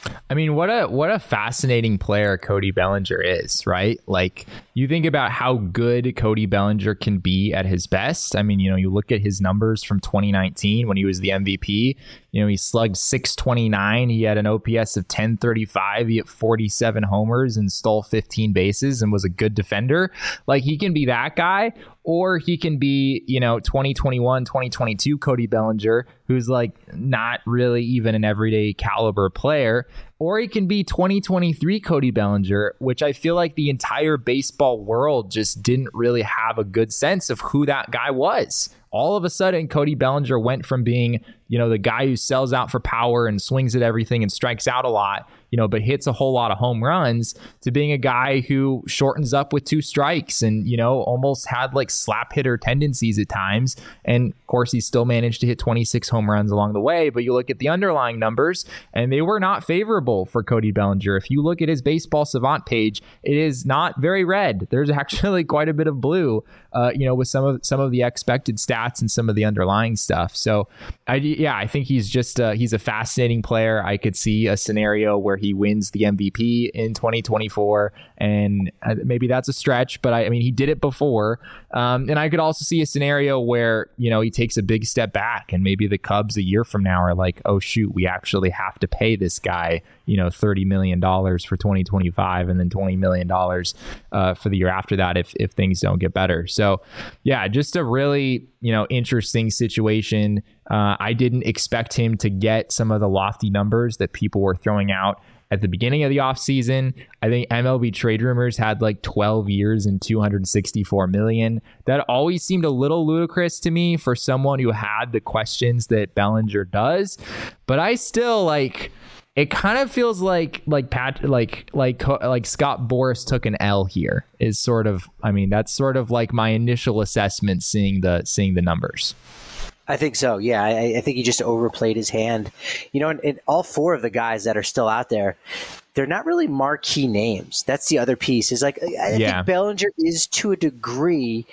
[SPEAKER 1] I mean, what a what a fascinating player Cody Bellinger is, right? Like, you think about how good Cody Bellinger can be at his best. I mean, you know, you look at his numbers from twenty nineteen when he was the M V P. You know, he slugged six twenty-nine. He had an O P S of ten thirty-five. He hit forty-seven homers and stole fifteen bases and was a good defender. Like, he can be that guy, or he can be, you know, twenty twenty-one, twenty twenty-two Cody Bellinger, who's like not really even an everyday caliber player. Or he can be twenty twenty-three Cody Bellinger, which I feel like the entire baseball world just didn't really have a good sense of who that guy was. All of a sudden, Cody Bellinger went from being, you know, the guy who sells out for power and swings at everything and strikes out a lot, you know, but hits a whole lot of home runs, to being a guy who shortens up with two strikes and, you know, almost had like slap hitter tendencies at times. And of course, he still managed to hit twenty-six home runs along the way. But you look at the underlying numbers and they were not favorable for Cody Bellinger. If you look at his Baseball Savant page, it is not very red. There's actually quite a bit of blue, uh, you know, with some of some of the expected stats and some of the underlying stuff. So, I, yeah, I think he's just uh, he's a fascinating player. I could see a scenario where he wins the M V P in twenty twenty-four, and maybe that's a stretch, but I, I mean, he did it before. Um, and I could also see a scenario where, you know, he takes a big step back, and maybe the Cubs a year from now are like, oh shoot, we actually have to pay this guy, you know, thirty million dollars for twenty twenty-five, and then twenty million dollars uh, for the year after that if if things don't get better. So, yeah, just a really, you know, interesting situation. Uh, I didn't expect him to get some of the lofty numbers that people were throwing out at the beginning of the offseason. I think M L B Trade Rumors had like twelve years and two hundred sixty-four million. That always seemed a little ludicrous to me for someone who had the questions that Bellinger does. But I still like, it kind of feels like like Pat like like like Scott Boras took an L here. Is sort of, I mean, that's sort of like my initial assessment seeing the seeing the numbers.
[SPEAKER 2] I think so. Yeah, I, I think he just overplayed his hand. You know, and, and all four of the guys that are still out there, they're not really marquee names. That's the other piece. Is like I yeah. think Bellinger is to a degree,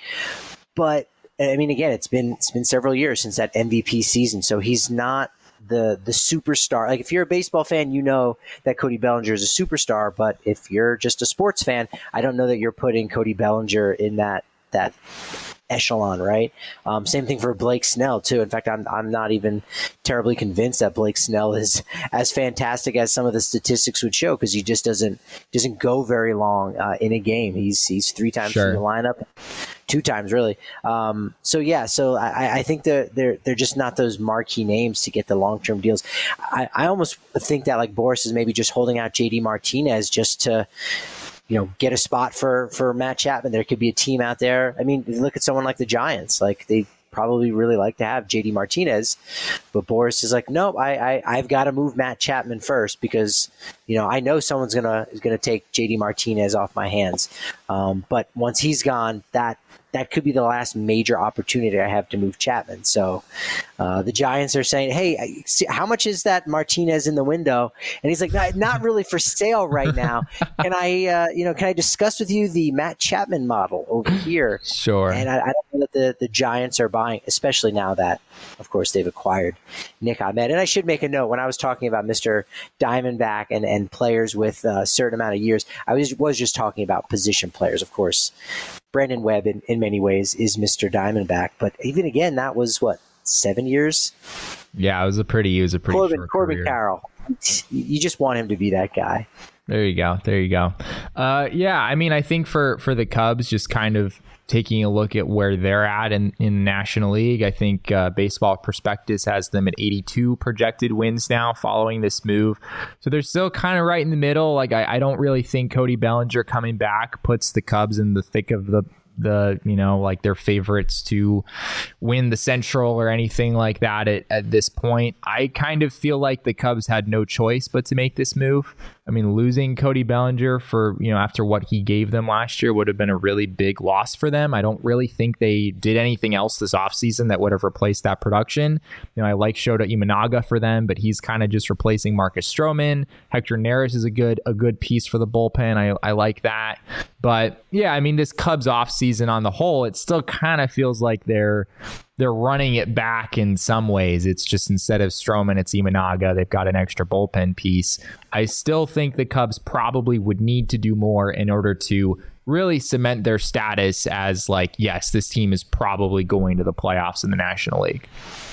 [SPEAKER 2] but I mean, again, it's been it's been several years since that M V P season, so he's not the the superstar. Like, if you're a baseball fan, you know that Cody Bellinger is a superstar, but if you're just a sports fan, I don't know that you're putting Cody Bellinger in that that echelon, right? Um, same thing for Blake Snell too. In fact, I'm I'm not even terribly convinced that Blake Snell is as fantastic as some of the statistics would show, because he just doesn't doesn't go very long uh, in a game. He's he's three times sure. in the lineup, two times really. Um, so yeah, so I, I think they're they're they're just not those marquee names to get the long term deals. I, I almost think that like Boras is maybe just holding out J D Martinez just to, you know, get a spot for, for Matt Chapman. There could be a team out there. I mean, look at someone like the Giants. Like, they probably really like to have J D Martinez, but Boras is like, no, I, I I've got to move Matt Chapman first, because, you know, I know someone's gonna is gonna take J D Martinez off my hands. Um, but once he's gone, that that could be the last major opportunity I have to move Chapman. So uh, the Giants are saying, hey, see, how much is that Martinez in the window? And he's like, not, not really for sale right now. Can I, uh, you know, can I discuss with you the Matt Chapman model over here?
[SPEAKER 1] Sure.
[SPEAKER 2] And I, I don't know that the, the Giants are buying, especially now that, of course, they've acquired Nick Ahmed. And I should make a note, when I was talking about Mister Diamondback and, and players with a certain amount of years, I was, was just talking about position players, of course. Brandon Webb, in, in many ways, is Mister Diamondback, but even again, that was what, seven years?
[SPEAKER 1] Yeah, it was a pretty, it was a pretty
[SPEAKER 2] Corbin,
[SPEAKER 1] short
[SPEAKER 2] Corbin
[SPEAKER 1] career.
[SPEAKER 2] Carroll. You just want him to be that guy.
[SPEAKER 1] There you go. There you go. Uh, yeah, I mean, I think for for the Cubs, just kind of taking a look at where they're at in, in the National League, I think uh, Baseball Prospectus has them at eighty-two projected wins now following this move. So they're still kind of right in the middle. Like, I, I don't really think Cody Bellinger coming back puts the Cubs in the thick of the the, you know, like their favorites to win the Central or anything like that at, at this point. I kind of feel like the Cubs had no choice but to make this move. I mean, losing Cody Bellinger for, you know, after what he gave them last year would have been a really big loss for them. I don't really think they did anything else this offseason that would have replaced that production. You know, I like Shota Imanaga for them, but he's kind of just replacing Marcus Stroman. Hector Neris is a good a good piece for the bullpen. I, I like that. But yeah, I mean, this Cubs offseason on the whole, it still kind of feels like they're they're running it back in some ways. It's just instead of Stroman, it's Imanaga. They've got an extra bullpen piece. I still think the Cubs probably would need to do more in order to really cement their status as like, yes, this team is probably going to the playoffs in the National League.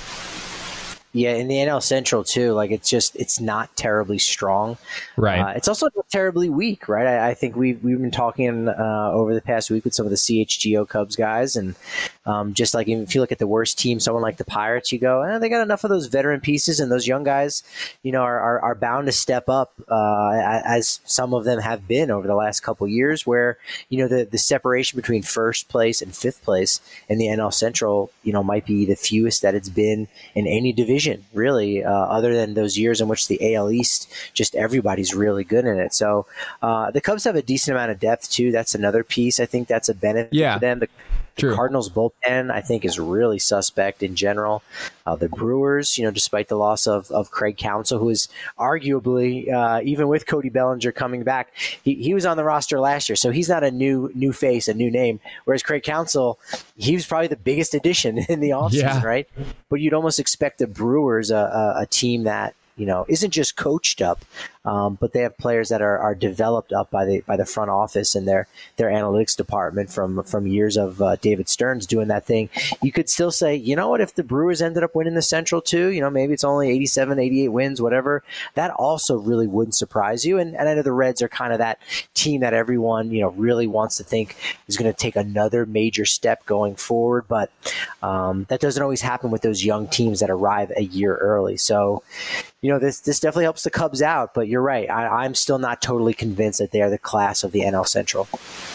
[SPEAKER 2] Yeah, in the N L Central too, like it's just it's not terribly strong.
[SPEAKER 1] Right.
[SPEAKER 2] Uh, it's also not terribly weak, right? I, I think we've we've been talking uh, over the past week with some of the C H G O Cubs guys, and um, just like if you look at the worst team, someone like the Pirates, you go, eh, they got enough of those veteran pieces, and those young guys, you know, are are, are bound to step up, uh, as some of them have been over the last couple of years. Where you know the the separation between first place and fifth place in the N L Central, you know, might be the fewest that it's been in any division. Really, uh, other than those years in which the A L East, just everybody's really good in it. So uh, the Cubs have a decent amount of depth too. That's another piece. I think that's a benefit
[SPEAKER 1] yeah.
[SPEAKER 2] to them. The, the Cardinals bullpen, I think, is really suspect in general. Uh, the Brewers, you know, despite the loss of, of Craig Counsell, who is arguably, uh, even with Cody Bellinger coming back, he, he was on the roster last year, so he's not a new new face, a new name. Whereas Craig Counsell, he was probably the biggest addition in the offseason, yeah. right? But you'd almost expect the Brewers, a, a, a team that, you know, isn't just coached up, um, but they have players that are, are developed up by the by the front office and their their analytics department from from years of uh, David Stearns doing that thing. You could still say, you know what, if the Brewers ended up winning the Central too, you know, maybe it's only eighty-seven, eighty-eight wins, whatever. That also really wouldn't surprise you. And, and I know the Reds are kind of that team that everyone, you know, really wants to think is going to take another major step going forward. But um, that doesn't always happen with those young teams that arrive a year early. So, you know, this this definitely helps the Cubs out, but you're right. I, I'm still not totally convinced that they are the class of the N L Central.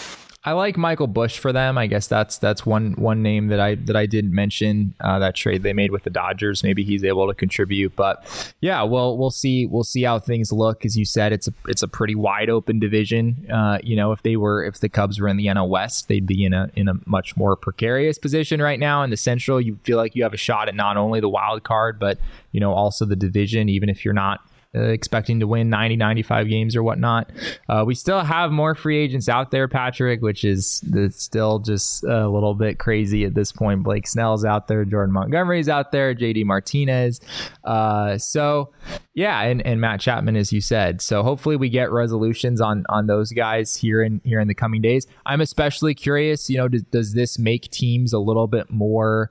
[SPEAKER 1] I like Michael Busch for them. I guess that's that's one one name that I that I didn't mention. Uh, that trade they made with the Dodgers. Maybe he's able to contribute. But yeah, well, we'll see. We'll see how things look. As you said, it's a it's a pretty wide open division. Uh, you know, if they were if the Cubs were in the N L West, they'd be in a in a much more precarious position right now. In the Central, you feel like you have a shot at not only the wild card, but you know also the division. Even if you're not Uh, expecting to win ninety, ninety-five games or whatnot. Uh, we still have more free agents out there, Patrick, which is that's still just a little bit crazy at this point. Blake Snell's out there, Jordan Montgomery's out there, J D Martinez. Uh, so, yeah, and, and Matt Chapman, as you said. So hopefully we get resolutions on on those guys here in here in the coming days. I'm especially curious, you know, does, does this make teams a little bit more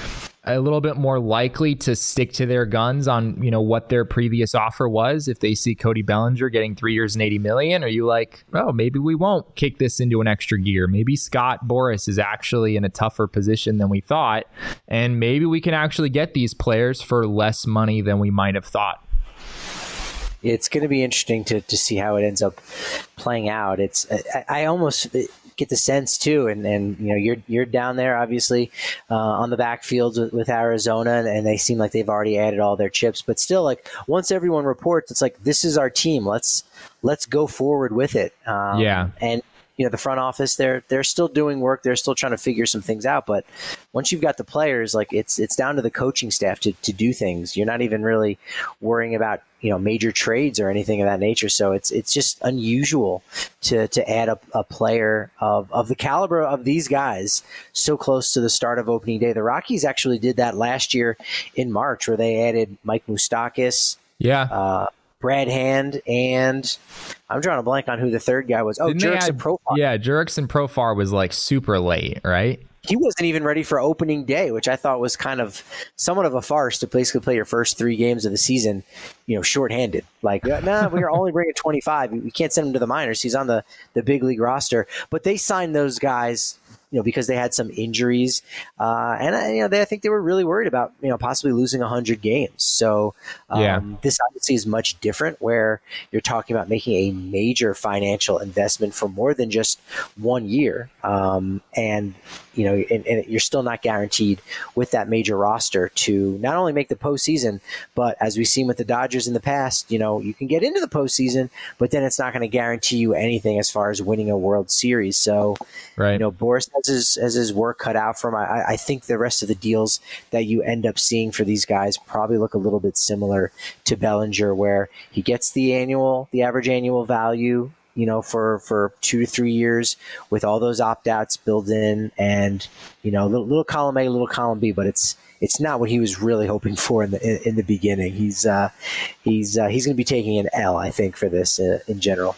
[SPEAKER 1] a little bit more likely to stick to their guns on, you know, what their previous offer was? If they see Cody Bellinger getting three years and eighty million, are you like, oh, maybe we won't kick this into an extra gear? Maybe Scott Boras is actually in a tougher position than we thought, and maybe we can actually get these players for less money than we might have thought.
[SPEAKER 2] It's going to be interesting to, to see how it ends up playing out. It's I, I almost get the sense too, and, and you know you're you're down there obviously uh, on the backfields with, with Arizona, and, and they seem like they've already added all their chips. But still, like once everyone reports, it's like this is our team. Let's let's go forward with it. Um,
[SPEAKER 1] yeah,
[SPEAKER 2] and. You know, the front office, they're they're still doing work. They're still trying to figure some things out. But once you've got the players, like it's it's down to the coaching staff to, to do things. You're not even really worrying about, you know, major trades or anything of that nature. So it's it's just unusual to to add a, a player of, of the caliber of these guys so close to the start of opening day. The Rockies actually did that last year in March, where they added Mike Moustakas.
[SPEAKER 1] Yeah.
[SPEAKER 2] Uh, Brad Hand, and I'm drawing a blank on who the third guy was. Oh, Jurickson Profar.
[SPEAKER 1] Yeah, Jurickson Profar was like super late, right?
[SPEAKER 2] He wasn't even ready for opening day, which I thought was kind of somewhat of a farce to basically play your first three games of the season, you know, shorthanded. Like, no, nah, we're only bringing twenty-five. We can't send him to the minors. He's on the, the big league roster. But they signed those guys, you know, because they had some injuries. Uh, and, I, you know, they, I think they were really worried about, you know, possibly losing one hundred games. So um,
[SPEAKER 1] yeah.
[SPEAKER 2] This obviously is much different, where you're talking about making a major financial investment for more than just one year. Um, and, you know, and, and you're still not guaranteed with that major roster to not only make the postseason, but as we've seen with the Dodgers in the past, you know, you can get into the postseason, but then it's not going to guarantee you anything as far as winning a World Series. So,
[SPEAKER 1] right.
[SPEAKER 2] you know, Boras has his, has his work cut out for him. I, I think the rest of the deals that you end up seeing for these guys probably look a little bit similar to Bellinger, where he gets the annual, the average annual value you know, for, for two to three years with all those opt-outs built in, and, you know, little, little column A, little column B, but it's it's not what he was really hoping for in the in, in the beginning. He's uh, he's uh, he's going to be taking an L, I think, for this uh, in general.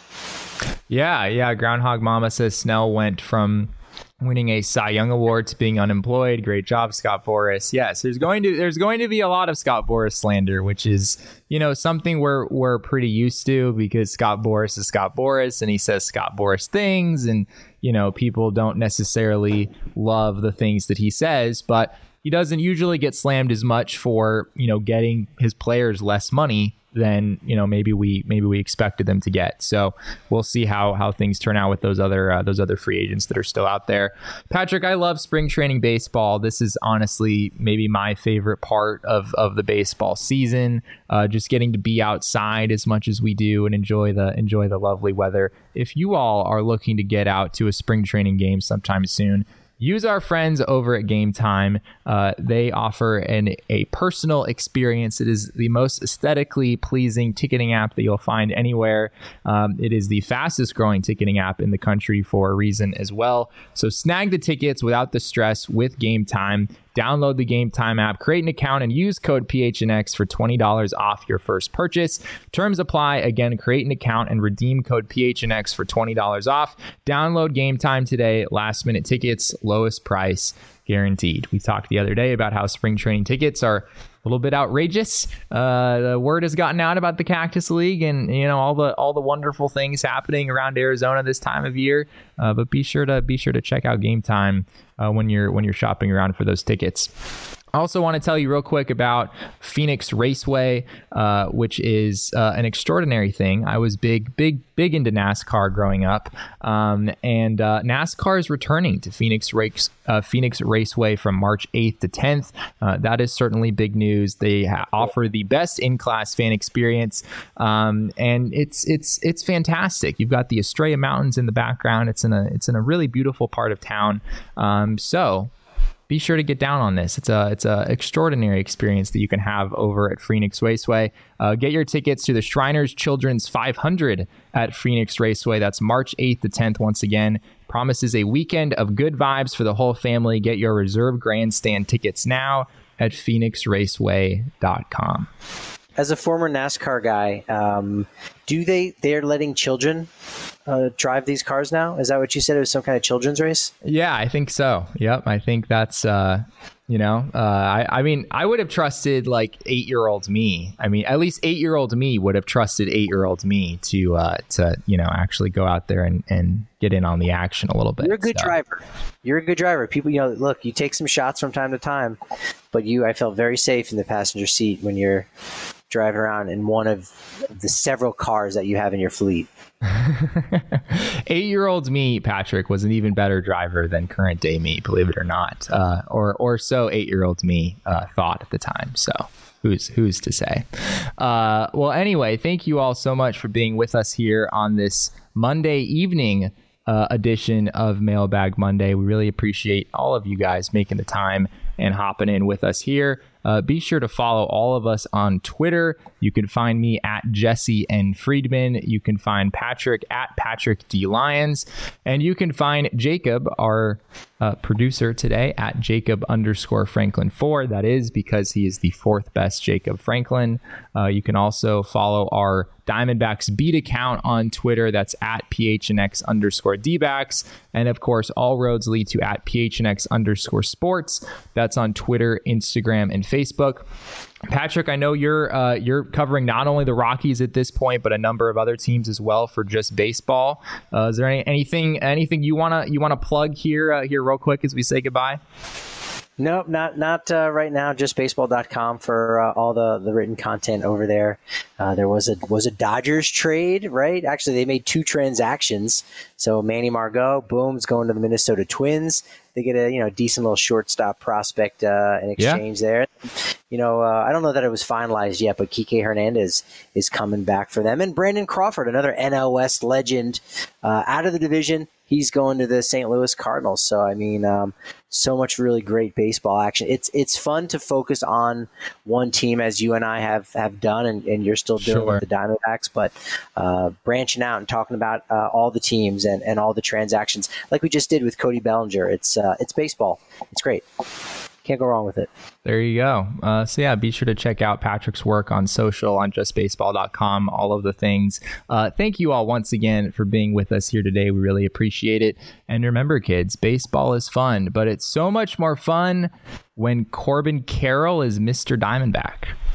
[SPEAKER 1] Yeah, yeah. Groundhog Mama says Snell went from winning a Cy Young Award to being unemployed. Great job, Scott Boras. Yes, there's going to there's going to be a lot of Scott Boras slander, which is, you know, something we're we're pretty used to, because Scott Boras is Scott Boras and he says Scott Boras things, and, you know, people don't necessarily love the things that he says, but he doesn't usually get slammed as much for, you know, getting his players less money than, you know, maybe we maybe we expected them to get. So we'll see how how things turn out with those other uh, those other free agents that are still out there. Patrick, I love spring training baseball. This is honestly maybe my favorite part of of the baseball season. Uh, just getting to be outside as much as we do and enjoy the enjoy the lovely weather. If you all are looking to get out to a spring training game sometime soon, use our friends over at Game Time. Uh, they offer an a personal experience. It is the most aesthetically pleasing ticketing app that you'll find anywhere. Um, it is the fastest growing ticketing app in the country for a reason as well. So snag the tickets without the stress with Game Time. Download the Game Time app, create an account, and use code P H N X for twenty dollars off your first purchase. Terms apply. Again, create an account and redeem code P H N X for twenty dollars off. Download Game Time today. Last minute tickets, lowest price guaranteed. We talked the other day about how spring training tickets are a little bit outrageous. Uh, the word has gotten out about the Cactus League and, you know, all the all the wonderful things happening around Arizona this time of year. Uh, but be sure to be sure to check out Game Time uh, when you're when you're shopping around for those tickets. I also want to tell you real quick about Phoenix Raceway, uh, which is uh, an extraordinary thing. I was big, big, big into NASCAR growing up, um, and uh, NASCAR is returning to Phoenix Race, uh, Phoenix Raceway from March eighth to tenth. Uh, that is certainly big news. They ha- offer the best in-class fan experience, um, and it's it's it's fantastic. You've got the Estrella Mountains in the background. It's in a it's in a really beautiful part of town. Um, so. Be sure to get down on this. It's a it's a extraordinary experience that you can have over at Phoenix Raceway. Uh, get your tickets to the Shriners Children's five hundred at Phoenix Raceway. That's March eighth to tenth. Once again, promises a weekend of good vibes for the whole family. Get your reserve grandstand tickets now at phoenix raceway dot com.
[SPEAKER 2] As a former NASCAR guy, um, do they they're letting children uh, drive these cars now? Is that what you said? It was some kind of children's race?
[SPEAKER 1] Yeah, I think so. Yep, I think that's uh, you know, uh, I I mean, I would have trusted like eight year old me. I mean, at least eight year old me would have trusted eight year old me to uh, to you know actually go out there and, and get in on the action a little bit.
[SPEAKER 2] You're a good so. driver. You're a good driver. People, you know, look, you take some shots from time to time, but you, I felt very safe in the passenger seat when you're driving around in one of the several cars that you have in your fleet.
[SPEAKER 1] Eight-year-old me, Patrick, was an even better driver than current day me, believe it or not, uh, or or so eight-year-old me uh, thought at the time. So who's who's to say? Uh, well, anyway, thank you all so much for being with us here on this Monday evening uh, edition of Mailbag Monday. We really appreciate all of you guys making the time and hopping in with us here. Uh, be sure to follow all of us on Twitter. You can find me at Jesse N. Friedman. You can find Patrick at Patrick D. Lyons. And you can find Jacob, our uh, producer today, at Jacob underscore Franklin four. That is because he is the fourth best Jacob Franklin. Uh, you can also follow our Diamondbacks beat account on Twitter. That's at P H N X underscore D-backs. And of course, all roads lead to at P H N X underscore sports. That's on Twitter, Instagram, and Facebook. Patrick, I know you're uh, you're covering not only the Rockies at this point, but a number of other teams as well for just baseball. Uh, is there any, anything anything you wanna you wanna plug here uh, here real quick as we say goodbye?
[SPEAKER 2] Nope, not not uh, right now. Just baseball dot com for uh, all the, the written content over there. Uh, there was a was a Dodgers trade, right? Actually, they made two transactions. So Manny Margot, boom, is going to the Minnesota Twins. they get a you know decent little shortstop prospect uh, in exchange
[SPEAKER 1] Yeah.
[SPEAKER 2] there. You know, uh, I don't know that it was finalized yet, but Kike Hernandez is coming back for them, and Brandon Crawford, another N L West legend, uh, out of the division. He's going to the Saint Louis Cardinals. So, I mean, um, so much really great baseball action. It's it's fun to focus on one team, as you and I have, have done, and, and you're still doing
[SPEAKER 1] Sure.
[SPEAKER 2] with the Diamondbacks, but uh, branching out and talking about uh, all the teams and, and all the transactions, like we just did with Cody Bellinger. It's uh, it's baseball. It's great. Can't go wrong with it.
[SPEAKER 1] There you go. Uh, so yeah, be sure to check out Patrick's work on social, on just baseball dot com, all of the things. Uh, thank you all once again for being with us here today. We really appreciate it. And remember, kids, baseball is fun, but it's so much more fun when Corbin Carroll is Mister Diamondback.